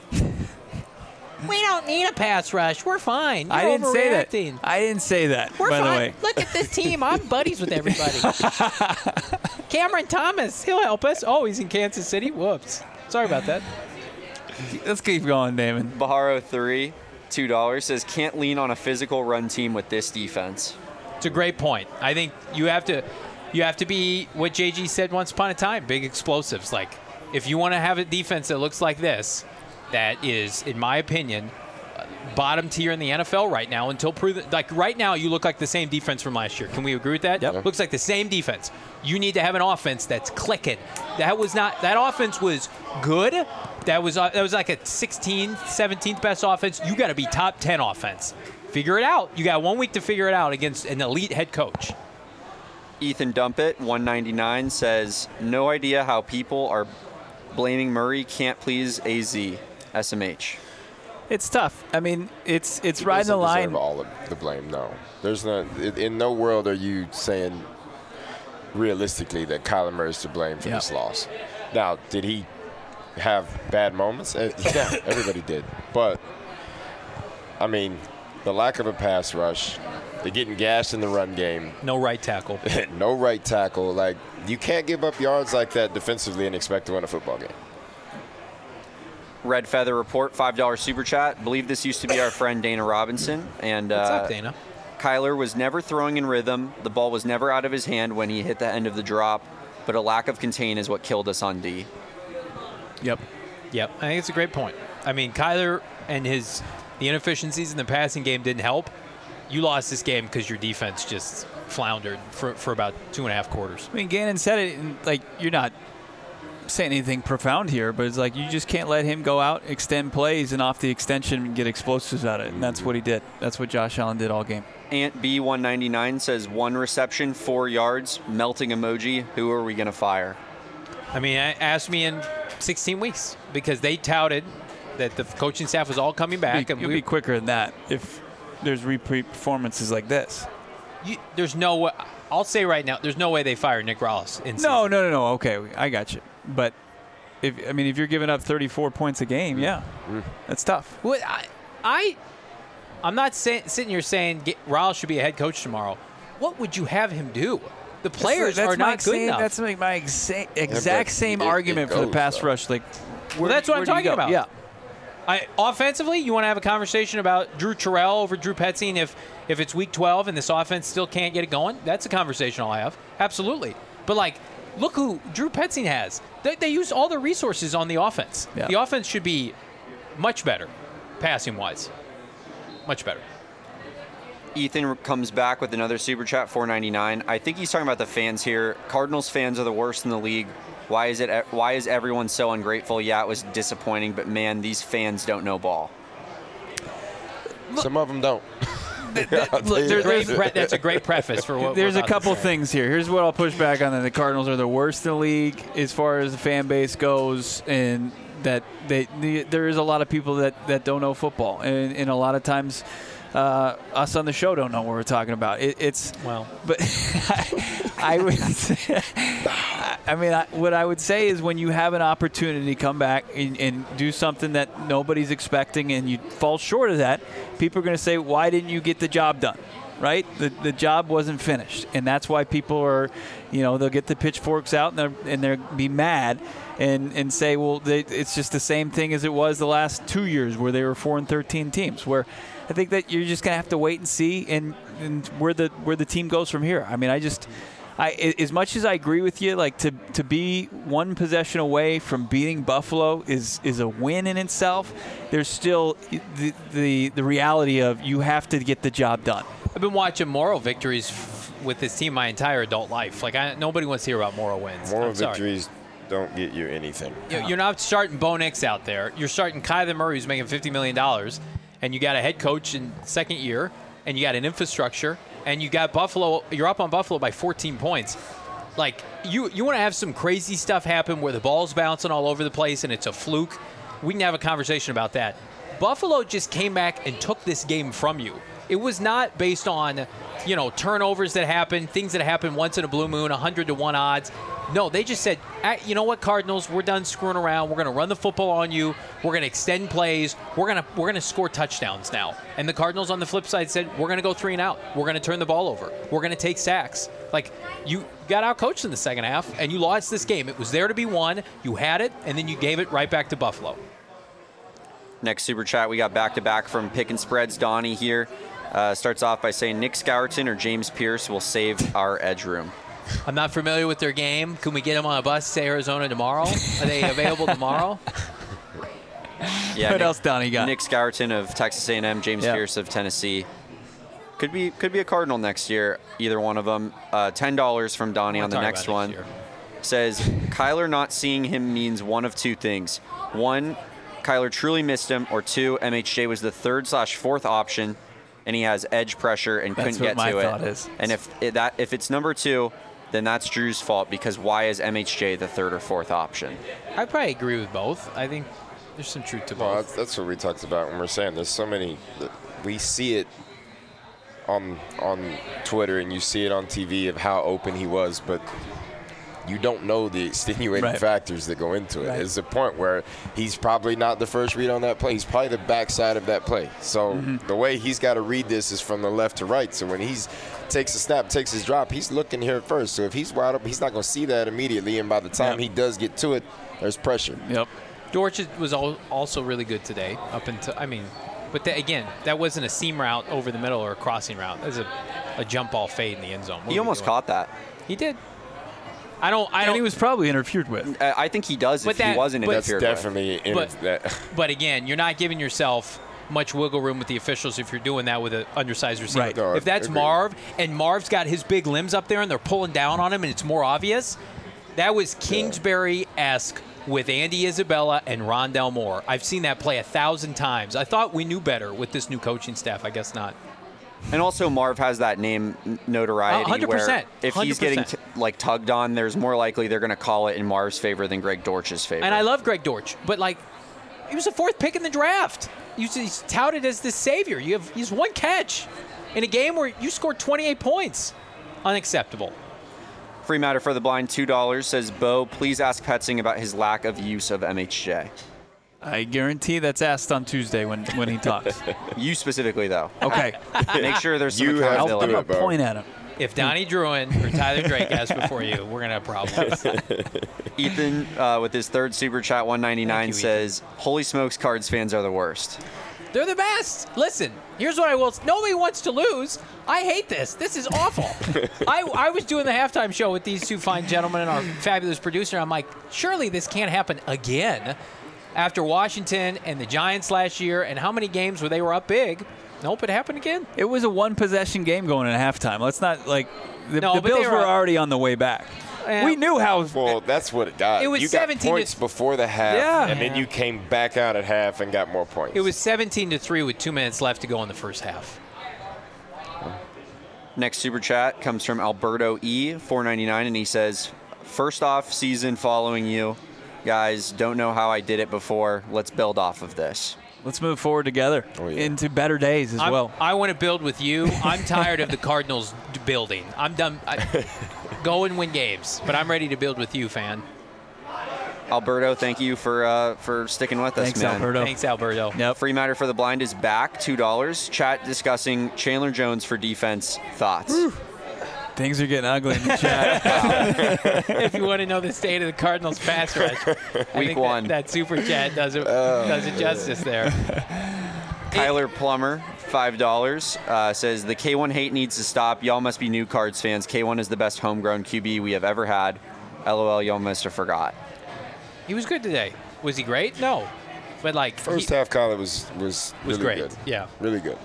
We don't need a pass rush. We're fine. You're I didn't say that. overreacting. I didn't say that. We're by fine. the way. Look at this team. I'm buddies with everybody. Cameron Thomas, he'll help us. Oh, he's in Kansas City. Whoops. Sorry about that. Let's keep going, Damon. Baharo three, two dollars, says, can't lean on a physical run team with this defense. It's a great point. I think you have to, you have to be what J G said once upon a time. Big explosives. Like if you want to have a defense that looks like this, that is, in my opinion, uh, bottom tier in the N F L right now. Until proven, like right now, you look like the same defense from last year. Can we agree with that? Yep. Looks like the same defense. You need to have an offense that's clicking. That was not. That offense was good. That was uh, that was like a sixteenth, seventeenth best offense. You got to be top ten offense. Figure it out. You got one week to figure it out against an elite head coach. Ethan Dumpet, one ninety-nine, says, no idea how people are blaming Murray can't please A Z. S M H. It's tough. I mean, it's it's He riding the doesn't line. deserve all of the blame. No, there's no. In in no world are you saying realistically that Kyler Murray is to blame for Yep. this loss. Now, did he have bad moments? Uh, Yeah, everybody did. But I mean, the lack of a pass rush, the getting gashed in the run game, No right tackle. no right tackle. Like you can't give up yards like that defensively and expect to win a football game. Red Feather Report, five dollars super chat. Believe this used to be our friend Dana Robinson. And What's uh, up, Dana? Kyler was never throwing in rhythm. The ball was never out of his hand when he hit the end of the drop. But a lack of contain is what killed us on D. Yep. Yep, I think it's a great point. I mean, Kyler and his the inefficiencies in the passing game didn't help. You lost this game because your defense just floundered for, for about two and a half quarters. I mean, Gannon said it. And, like you're not saying anything profound here, but it's like you just can't let him go out, extend plays, and off the extension and get explosives out of it. And that's what he did. That's what Josh Allen did all game. Ant B one ninety-nine says, one reception, four yards, melting emoji. Who are we going to fire? I mean, I- ask me in sixteen weeks because they touted that the coaching staff was all coming back. You'll and be, you'll we, be quicker than that if there's repeat performances like this. you, there's no way. I'll say right now, there's no way they fire Nick Rallis. In No, no, no, no. Okay, I got you. But if I mean, if you're giving up thirty-four points a game, yeah, mm. that's tough. Well, I, I, I'm not say, sitting here saying get, Rallis should be a head coach tomorrow. What would you have him do? The players that's, that's are not good same, enough. That's like my exa- exact yeah, same it, argument it for the goes, pass though. rush. Like, where, well, that's what where I'm do you talking go? about. Yeah. I, offensively, you want to have a conversation about Drew Terrell over Drew Petzing if if it's week twelve and this offense still can't get it going? That's a conversation I'll have. Absolutely. But, like, look who Drew Petzing has. They, they use all their resources on the offense. Yeah. The offense should be much better, passing-wise. Much better. Ethan comes back with another Super Chat, four ninety-nine. I think he's talking about the fans here. Cardinals fans are the worst in the league. Why is it? Why is everyone so ungrateful? Yeah, it was disappointing, but man, these fans don't know ball. Some of them don't. Look, there, Great pre- that's a great preface for what There's we're a about to couple say. things here. Here's what I'll push back on: that the Cardinals are the worst in the league as far as the fan base goes, and that they, the, there is a lot of people that, that don't know football, and, and a lot of times uh, us on the show don't know what we're talking about. It, it's Well, but I, I would. Say, I mean, I, what I would say is when you have an opportunity to come back and, and do something that nobody's expecting, and you fall short of that, people are going to say, "Why didn't you get the job done?" Right? The the job wasn't finished, and that's why people are, you know, they'll get the pitchforks out and they're and they'll be mad, and and say, well, they, it's just the same thing as it was the last two years where they were four and thirteen teams. Where I think that you're just going to have to wait and see, and, and where the where the team goes from here. I mean, I just. I, as much as I agree with you, like to, to be one possession away from beating Buffalo is, is a win in itself. There's still the, the the reality of you have to get the job done. I've been watching moral victories f- with this team my entire adult life. Like I, nobody wants to hear about moral wins. Moral I'm sorry. victories don't get you anything. You- You're not starting Bo Nix out there. You're starting Kyler Murray, who's making fifty million dollars, and you got a head coach in second year, and you got an infrastructure. And you got Buffalo, you're up on Buffalo by fourteen points. Like, you, you want to have some crazy stuff happen where the ball's bouncing all over the place and it's a fluke. We can have a conversation about that. Buffalo just came back and took this game from you. It was not based on, you know, turnovers that happen, things that happen once in a blue moon, one hundred to one odds. No, they just said, you know what, Cardinals, we're done screwing around. We're going to run the football on you. We're going to extend plays. We're going to we're going to score touchdowns now. And the Cardinals on the flip side said, we're going to go three and out. We're going to turn the ball over. We're going to take sacks. Like, you got outcoached in the second half, and you lost this game. It was there to be won. You had it, and then you gave it right back to Buffalo. Next Super Chat, we got back-to-back from Pick and Spreads. Donnie here uh, starts off by saying Nick Scourton or James Pierce will save our edge room. I'm not familiar with their game. Can we get them on a bus to Arizona tomorrow? Are they available tomorrow? Yeah, what Nick, else, Donnie got? Nick Scourton of Texas A and M, James Yeah. Pierce of Tennessee. Could be could be a Cardinal next year, either one of them. Uh, ten dollars from Donnie We'll on the talk next about one. next year. Says, Kyler not seeing him means one of two things. One, Kyler truly missed him, or two, M H J was the third slash fourth option, and he has edge pressure and That's couldn't what get my to thought it. is. And if it, that if it's number two, then that's Drew's fault, because why is M H J the third or fourth option? I probably agree with both. I think there's some truth to Well, both. that's, that's what we talked about when we're saying there's so many. We see it on on Twitter and you see it on T V of how open he was, but you don't know the extenuating Right. factors that go into it. Right. It's a point where he's probably not the first read on that play. He's probably the backside of that play. So Mm-hmm. the way he's got to read this is from the left to right. So when he's takes a snap, takes his drop, he's looking here first. So if he's wide up, he's not going to see that immediately. And by the time Yep. he does get to it, there's pressure. Yep. Dortch was al- also really good today. Up until I mean, but that, again, that wasn't a seam route over the middle or a crossing route. That was a, a jump ball fade in the end zone. What He are we almost doing? caught that. He did. I don't. I And don't. he was probably interfered with. Uh, I think he does But if that- he wasn't but- That's interfered with. definitely in But- it, that. But again, you're not giving yourself much wiggle room with the officials if you're doing that with an undersized receiver. Right. No, if that's agreed. Marv and Marv's got his big limbs up there and they're pulling down on him and it's more obvious, that was Kingsbury-esque with Andy Isabella and Rondell Moore. I've seen that play a thousand times. I thought we knew better with this new coaching staff. I guess not. And also, Marv has that name n- notoriety Uh, one hundred percent. where if he's getting t- like tugged on, there's more likely they're going to call it in Marv's favor than Greg Dortch's favor. And I love Greg Dortch, but like, he was the fourth pick in the draft. He's, he's touted as the savior. You have he's one catch. in a game where you scored twenty-eight points. Unacceptable. Free matter for the blind, two dollars, says, Bo, please ask Petzing about his lack of use of M H J. I guarantee that's asked on Tuesday when, when he talks. You specifically, though. Okay. Make sure there's some You have to I'll, do I'm accountability. going it, to Bo. point at him. If Donnie Druin or Tyler Drake ask before you, we're going to have problems. Ethan, uh, with his third super chat, one ninety-nine, Thank you, says, holy smokes, Cards fans are the worst. They're the best. Listen, here's what I will say. Nobody wants to lose. I hate this. This is awful. I, I was doing the halftime show with these two fine gentlemen and our fabulous producer. I'm like, surely this can't happen again after Washington and the Giants last year and how many games where they were up big. Nope, it happened again. It was a one-possession game going into halftime. Let's not, like, the, No, the but they Bills were were up- already on the way back. Yeah. We knew how. Well, that's what it got. It was you got seventeen to points before the half, Yeah. and then you came back out at half and got more points. It was seventeen to three with two minutes left to go in the first half. Next super chat comes from Alberto E, four ninety-nine, and he says, first off season following you. Guys, don't know how I did it before. Let's build off of this. Let's move forward together Oh, yeah. into better days as I'm- well. I want to build with you. I'm tired of the Cardinals d- building. I'm done. I, go and win games, but I'm ready to build with you, fan. Alberto, thank you for uh, for sticking with us, Thanks, man. Alberto. Thanks, Alberto. Yep. Free matter for the blind is back, two dollars. Chat discussing Chandler Jones for defense. Thoughts? Things are getting ugly in the chat. If you want to know the state of the Cardinals pass rush, I Week think one. That, that super chat does it, does it justice there. Kyler Plummer, five dollars, uh, says, the K one hate needs to stop. Y'all must be new Cards fans. K one is the best homegrown Q B we have ever had. LOL, y'all must have forgot. He was good today. Was he great? No. But, like, First he half, Kyler was was was really great. good. Yeah. Really good.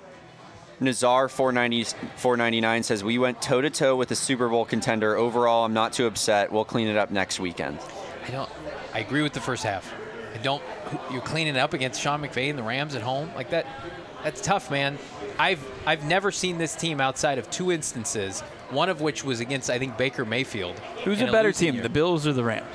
Nazar, four ninety-nine, says, we went toe-to-toe with a Super Bowl contender. Overall, I'm not too upset. We'll clean it up next weekend. I don't. I agree with the first half. I don't. You're cleaning up against Sean McVay and the Rams at home like that. That's tough, man. I've I've never seen this team outside of two instances. One of which was against I think Baker Mayfield. Who's in a better losing team, year. the Bills or the Rams?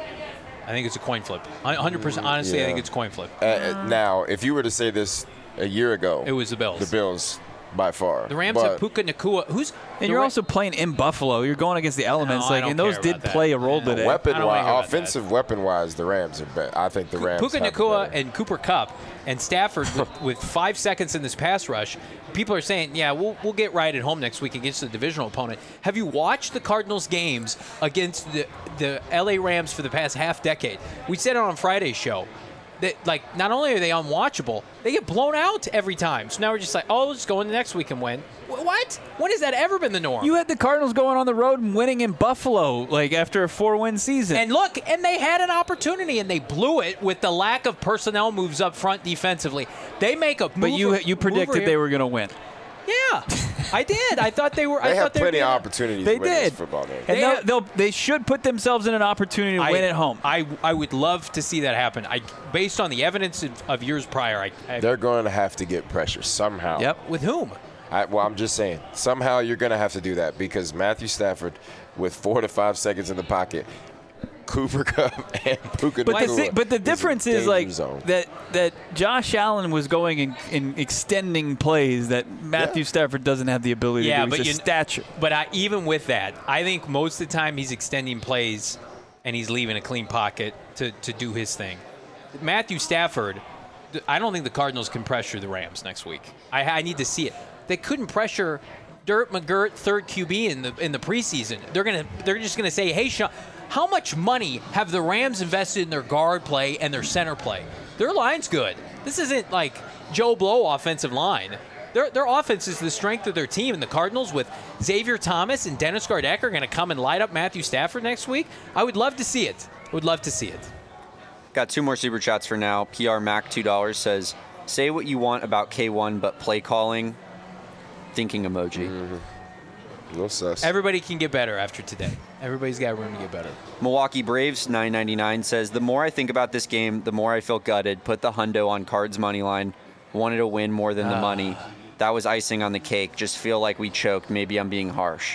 I think it's a coin flip. one hundred percent. Honestly, I Yeah. think it's a coin flip. Uh, Uh, now, if you were to say this a year ago, It was the Bills. the Bills by far. The Rams but have Puka Nacua. Who's And the you're Ra- also playing in Buffalo. You're going against the elements, No, I like, don't and those care did about that. play a role Yeah. today. weapon I don't wanna hear wise, about offensive weapon wise, the Rams are better. I think the Rams. Puka have Nacua better. and Cooper Kupp and Stafford with, with five seconds in this pass rush. People are saying, yeah, we'll we'll get right at home next week against the divisional opponent. Have you watched the Cardinals games against the the L A Rams for the past half decade? We said it on Friday's show. That, like, not only are they unwatchable, they get blown out every time. So now we're just like, oh, let's go into next week and win. Wh- What? When has that ever been the norm? You had the Cardinals going on the road and winning in Buffalo, like after a four-win season. And look, and they had an opportunity, and they blew it with the lack of personnel moves up front defensively. They make a move. but you you predicted mover they here. were going to win. Yeah, I did. I thought they were. They I have thought plenty they of were opportunities They to win this did. football game. And They they'll, have- they'll, they should put themselves in an opportunity to I, win at home. I I would love to see that happen. I based on the evidence of, of years prior. I, I They're going to have to get pressure somehow. Yep. with whom? I, well, I'm just saying, somehow you're going to have to do that because Matthew Stafford, with four to five seconds in the pocket, Cooper Kupp and Puka But the, Nacua thi- but the is a difference is danger like zone. that that Josh Allen was going in, in extending plays that Matthew Yeah. Stafford doesn't have the ability Yeah, to do. but He's you- just stature. But I, even with that, I think most of the time he's extending plays and he's leaving a clean pocket to, to do his thing. Matthew Stafford, th- I don't think the Cardinals can pressure the Rams next week. I, I need to see it. They couldn't pressure Dirt McGirt, third Q B in the in the preseason. They're gonna they're just gonna say, hey, Sean, how much money have the Rams invested in their guard play and their center play? Their line's good. This isn't like Joe Blow offensive line. Their, their offense is the strength of their team, and the Cardinals with Xavier Thomas and Dennis Gardeck are going to come and light up Matthew Stafford next week. I would love to see it. Would love to see it. Got two more super chats for now. P R Mac, two dollars, says, say what you want about K one, but play calling, thinking emoji. Mm-hmm. No sus. Everybody can get better after today. Everybody's got room to get better. Milwaukee Braves, nine ninety-nine, says, the more I think about this game, the more I feel gutted. Put the hundo on Cards money line. Wanted to win more than the money. That was icing on the cake. Just feel like we choked. Maybe I'm being harsh.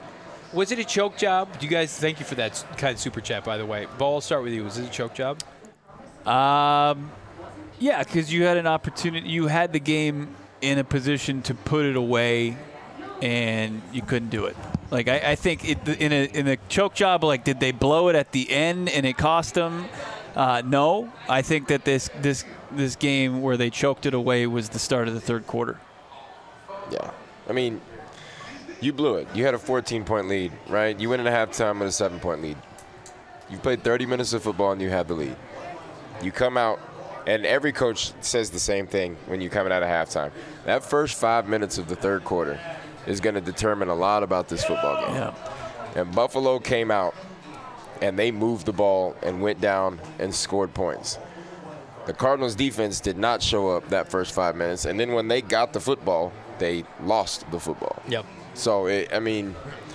Was it a choke job? Do you guys, thank you for that kind of super chat, by the way. Bo, I'll start with you. Was it a choke job? Um, yeah, because you had an opportunity. You had the game in a position to put it away, and you couldn't do it. Like I, I think it, in a in a choke job, like did they blow it at the end and it cost them? Uh, no, I think that this this this game where they choked it away was the start of the third quarter. Yeah, I mean, you blew it. You had a fourteen-point lead, right? You went into halftime with a seven-point lead. You played thirty minutes of football and you had the lead. You come out, and every coach says the same thing when you're coming out of halftime. That first five minutes of the third quarter is going to determine a lot about this football game. Yeah. And Buffalo came out, and they moved the ball and went down and scored points. The Cardinals' defense did not show up that first five minutes, and then when they got the football, they lost the football. Yep. So, it, I mean,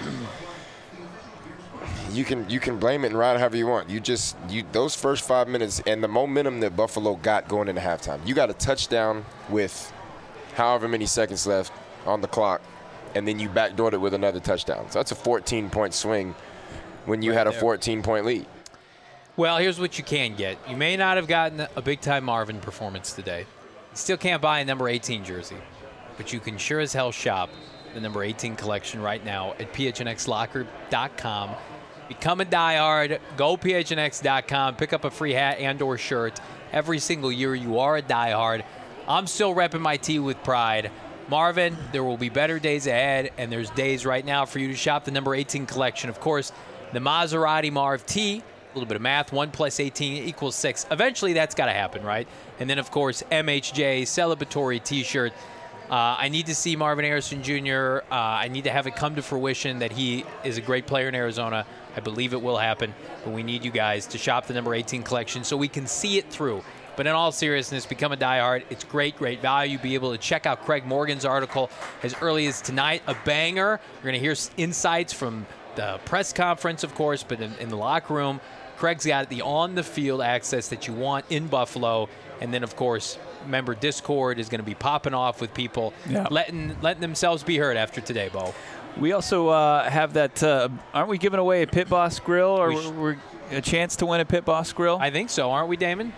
you can you can blame it and ride however you want. You just you those first five minutes and the momentum that Buffalo got going into halftime. You got a touchdown with however many seconds left on the clock, and then you backdoored it with another touchdown. So that's a fourteen-point swing when you Right had a there. fourteen-point lead. Well, here's what you can get. You may not have gotten a big-time Marvin performance today. You still can't buy a number eighteen jersey, but you can sure as hell shop the number eighteen collection right now at P H N X locker dot com. Become a diehard. Go P H N X dot com. Pick up a free hat and or shirt. Every single year you are a diehard. I'm still repping my tee with pride. Marvin, there will be better days ahead, and there's days right now for you to shop the number eighteen collection. Of course, the Maserati Marv tee, a little bit of math, one plus eighteen equals six. Eventually, that's got to happen, right? And then, of course, M H J, celebratory T-shirt. Uh, I need to see Marvin Harrison Junior Uh, I need to have it come to fruition that he is a great player in Arizona. I believe it will happen, but we need you guys to shop the number eighteen collection so we can see it through. But in all seriousness, become a diehard. It's great, great value. Be able to check out Craig Morgan's article as early as tonight. A banger. You're going to hear insights from the press conference, of course, but in, in the locker room. Craig's got the on-the-field access that you want in Buffalo. And then, of course, remember, Discord is going to be popping off with people Yeah. letting letting themselves be heard after today, Bo. We also uh, have that. Uh, aren't we giving away a Pit Boss Grill or We sh- we're, a chance to win a Pit Boss Grill? I think so, aren't we, Damon?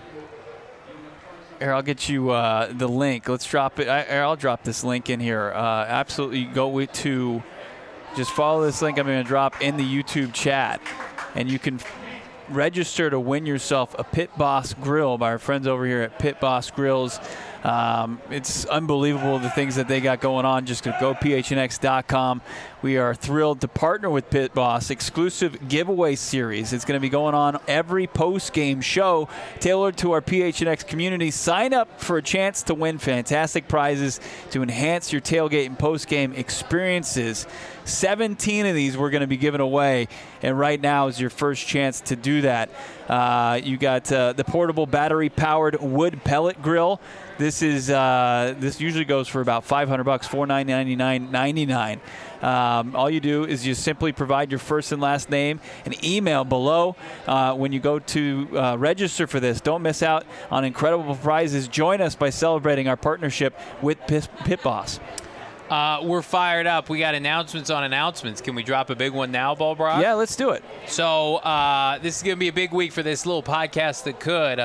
Here, I'll get you uh, the link. Let's drop it. I, I'll drop this link in here. Uh, absolutely, go with to just follow this link I'm going to drop in the YouTube chat, and you can f- register to win yourself a Pit Boss Grill by our friends over here at Pit Boss Grills. Um, it's unbelievable the things that they got going on. Just go P H N X dot com. We are thrilled to partner with Pit Boss. Exclusive giveaway series. It's going to be going on every post-game show tailored to our P H N X community. Sign up for a chance to win fantastic prizes to enhance your tailgate and post-game experiences. seventeen of these we're going to be giving away, and right now is your first chance to do that. Uh, you got uh, the portable battery-powered wood pellet grill. This is uh, this usually goes for about five hundred bucks, four ninety-nine ninety-nine. Um, all you do is you simply provide your first and last name and email below uh, when you go to uh, register for this. Don't miss out on incredible prizes. Join us by celebrating our partnership with Pit, Pit Boss. Uh, we're fired up. We got announcements on announcements. Can we drop a big one now, Ball Brock? Yeah, let's do it. So uh, this is going to be a big week for this little podcast that could.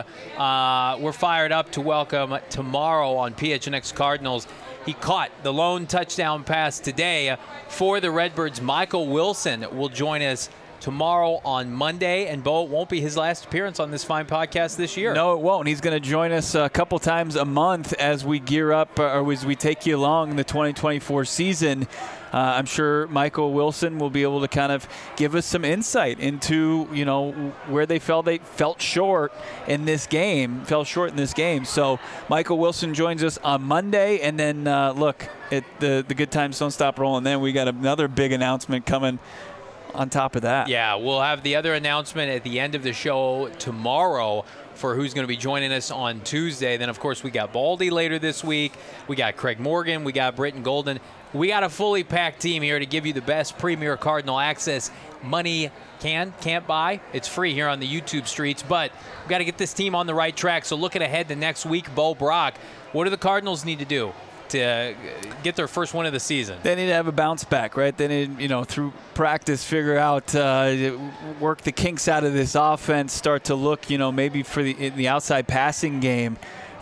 Uh, we're fired up to welcome tomorrow on P H N X Cardinals. He caught the lone touchdown pass today for the Redbirds. Michael Wilson will join us tomorrow on Monday, and Bo, it won't be his last appearance on this fine podcast this year. No, it won't. He's going to join us a couple times a month as we gear up, uh, or as we take you along the twenty twenty-four season. Uh, I'm sure Michael Wilson will be able to kind of give us some insight into, you know, where they felt they felt short in this game, fell short in this game. So Michael Wilson joins us on Monday, and then uh, look, it, the the good times don't stop rolling. Then we got another big announcement coming on top of that. Yeah, we'll have the other announcement at the end of the show tomorrow for who's going to be joining us on Tuesday. Then, of course, we got Baldy later this week. We got Craig Morgan. We got Britton Golden. We got a fully packed team here to give you the best Premier Cardinal access money can, can't buy. It's free here on the YouTube streets, but we've got to get this team on the right track. So looking ahead to next week, Bo Brock, what do the Cardinals need to do to get their first win of the season? They need to have a bounce back, right? They need, you know, through practice, figure out, uh, work the kinks out of this offense, start to look, you know, maybe for the in the outside passing game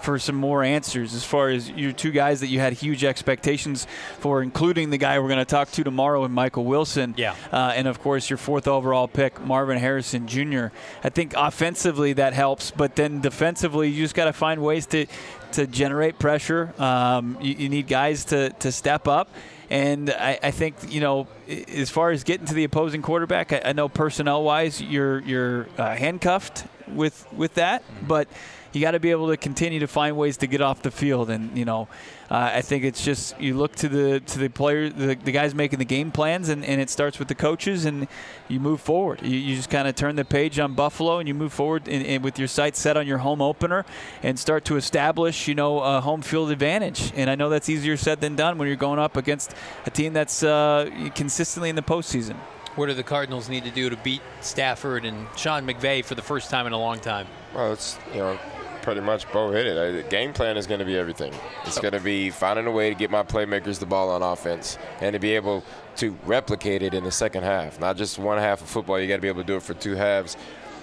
for some more answers as far as your two guys that you had huge expectations for, including the guy we're going to talk to tomorrow in Michael Wilson. Yeah. Uh, and, of course, your fourth overall pick, Marvin Harrison Junior I think offensively that helps, but then defensively you just got to find ways to, to generate pressure. Um, you, you need guys to, to step up. And I, I think, you know, as far as getting to the opposing quarterback, I, I know personnel-wise you're you're uh, handcuffed with with that, but you got to be able to continue to find ways to get off the field. And, you know, uh, I think it's just you look to the to the player, the, the guys making the game plans, and, and it starts with the coaches, and you move forward. You, you just kind of turn the page on Buffalo, and you move forward in, in, with your sights set on your home opener and start to establish, you know, a home field advantage. And I know that's easier said than done when you're going up against a team that's uh, consistently in the postseason. What do the Cardinals need to do to beat Stafford and Sean McVay for the first time in a long time? Well, it's, you know, pretty much Bo hit it. The game plan is going to be everything. It's going to be finding a way to get my playmakers the ball on offense and to be able to replicate it in the second half. Not just one half of football. You got to be able to do it for two halves.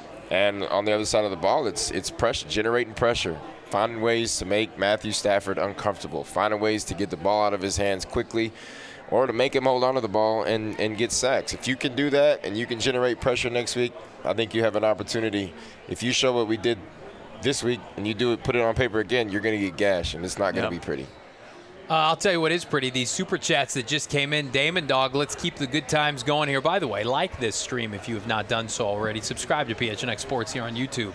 And on the other side of the ball, it's it's pressure, generating pressure, finding ways to make Matthew Stafford uncomfortable, finding ways to get the ball out of his hands quickly, or to make him hold on to the ball and, and get sacks. If you can do that and you can generate pressure next week, I think you have an opportunity. If you show what we did this week and you do it, put it on paper again, you're going to get gashed, and it's not going to yep. be pretty. Uh, I'll tell you what is pretty. These super chats that just came in. Damon Dog, let's keep the good times going here. By the way, like this stream if you have not done so already. Subscribe to P H N X Sports here on YouTube.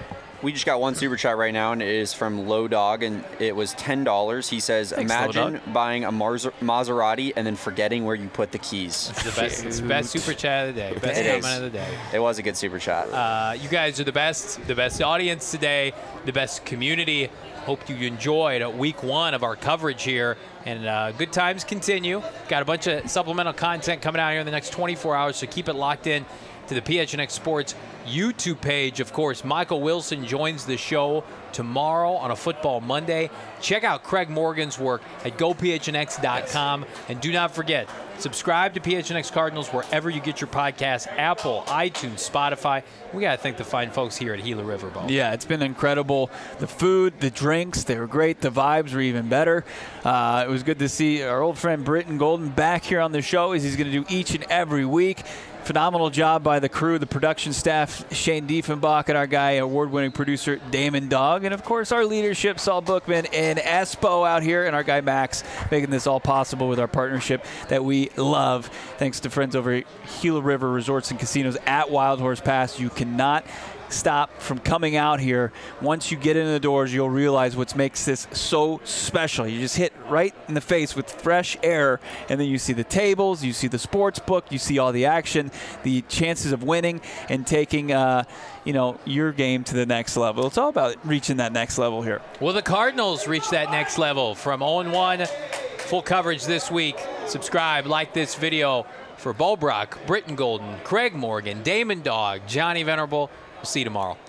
We just got one super chat right now, and it is from Low Dog, and it was ten dollars. He says, Thanks, imagine buying a Mars- Maserati and then forgetting where you put the keys. It's the best, it's the best super chat of the day. Best It comment is. of the day. It was a good super chat. Uh, you guys are the best, the best audience today, the best community. Hope you enjoyed week one of our coverage here. And uh, good times continue. Got a bunch of supplemental content coming out here in the next twenty-four hours, so keep it locked in to the P H N X Sports YouTube page. Of course, Michael Wilson joins the show tomorrow on a Football Monday. Check out Craig Morgan's work at go P H N X dot com. And do not forget, subscribe to P H N X Cardinals wherever you get your podcasts, Apple, iTunes, Spotify. We got to thank the fine folks here at Gila River Bowl. Yeah, it's been incredible. The food, the drinks, they were great. The vibes were even better. Uh, it was good to see our old friend Britton Golden back here on the show, as he's going to do each and every week. Phenomenal job by the crew, the production staff, Shane Diefenbach, and our guy, award-winning producer Damon Dog, and of course our leadership, Saul Bookman and Espo out here, and our guy Max, making this all possible with our partnership that we love. Thanks to friends over at Gila River Resorts and Casinos at Wild Horse Pass. You cannot stop from coming out here. Once you get in the doors, you'll realize what makes this so special. You just hit right in the face with fresh air, and then you see the tables, you see the sports book, you see all the action, the chances of winning and taking uh, you know, your game to the next level. It's all about reaching that next level here. Well, the Cardinals reach that next level from oh and one. Full coverage this week. Subscribe, like this video for Bo Brock, Britton Golden, Craig Morgan, Damon Dog, Johnny Venerable. We'll see you tomorrow.